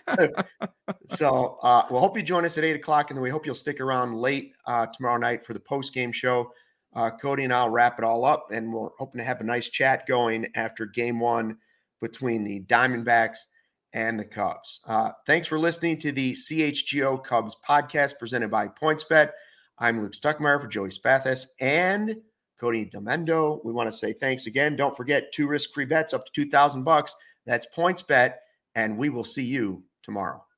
So we'll hope you join us at 8 o'clock, and then we hope you'll stick around late tomorrow night for the post-game show. Cody and I'll wrap it all up, and we're hoping to have a nice chat going after game 1 between the Diamondbacks and the Cubs. Thanks for listening to the CHGO Cubs podcast presented by PointsBet. I'm Luke Stuckmeyer for Joey Spathis and Cody Demendo. We want to say thanks again. Don't forget 2 risk-free bets up to $2,000. That's PointsBet, and we will see you tomorrow.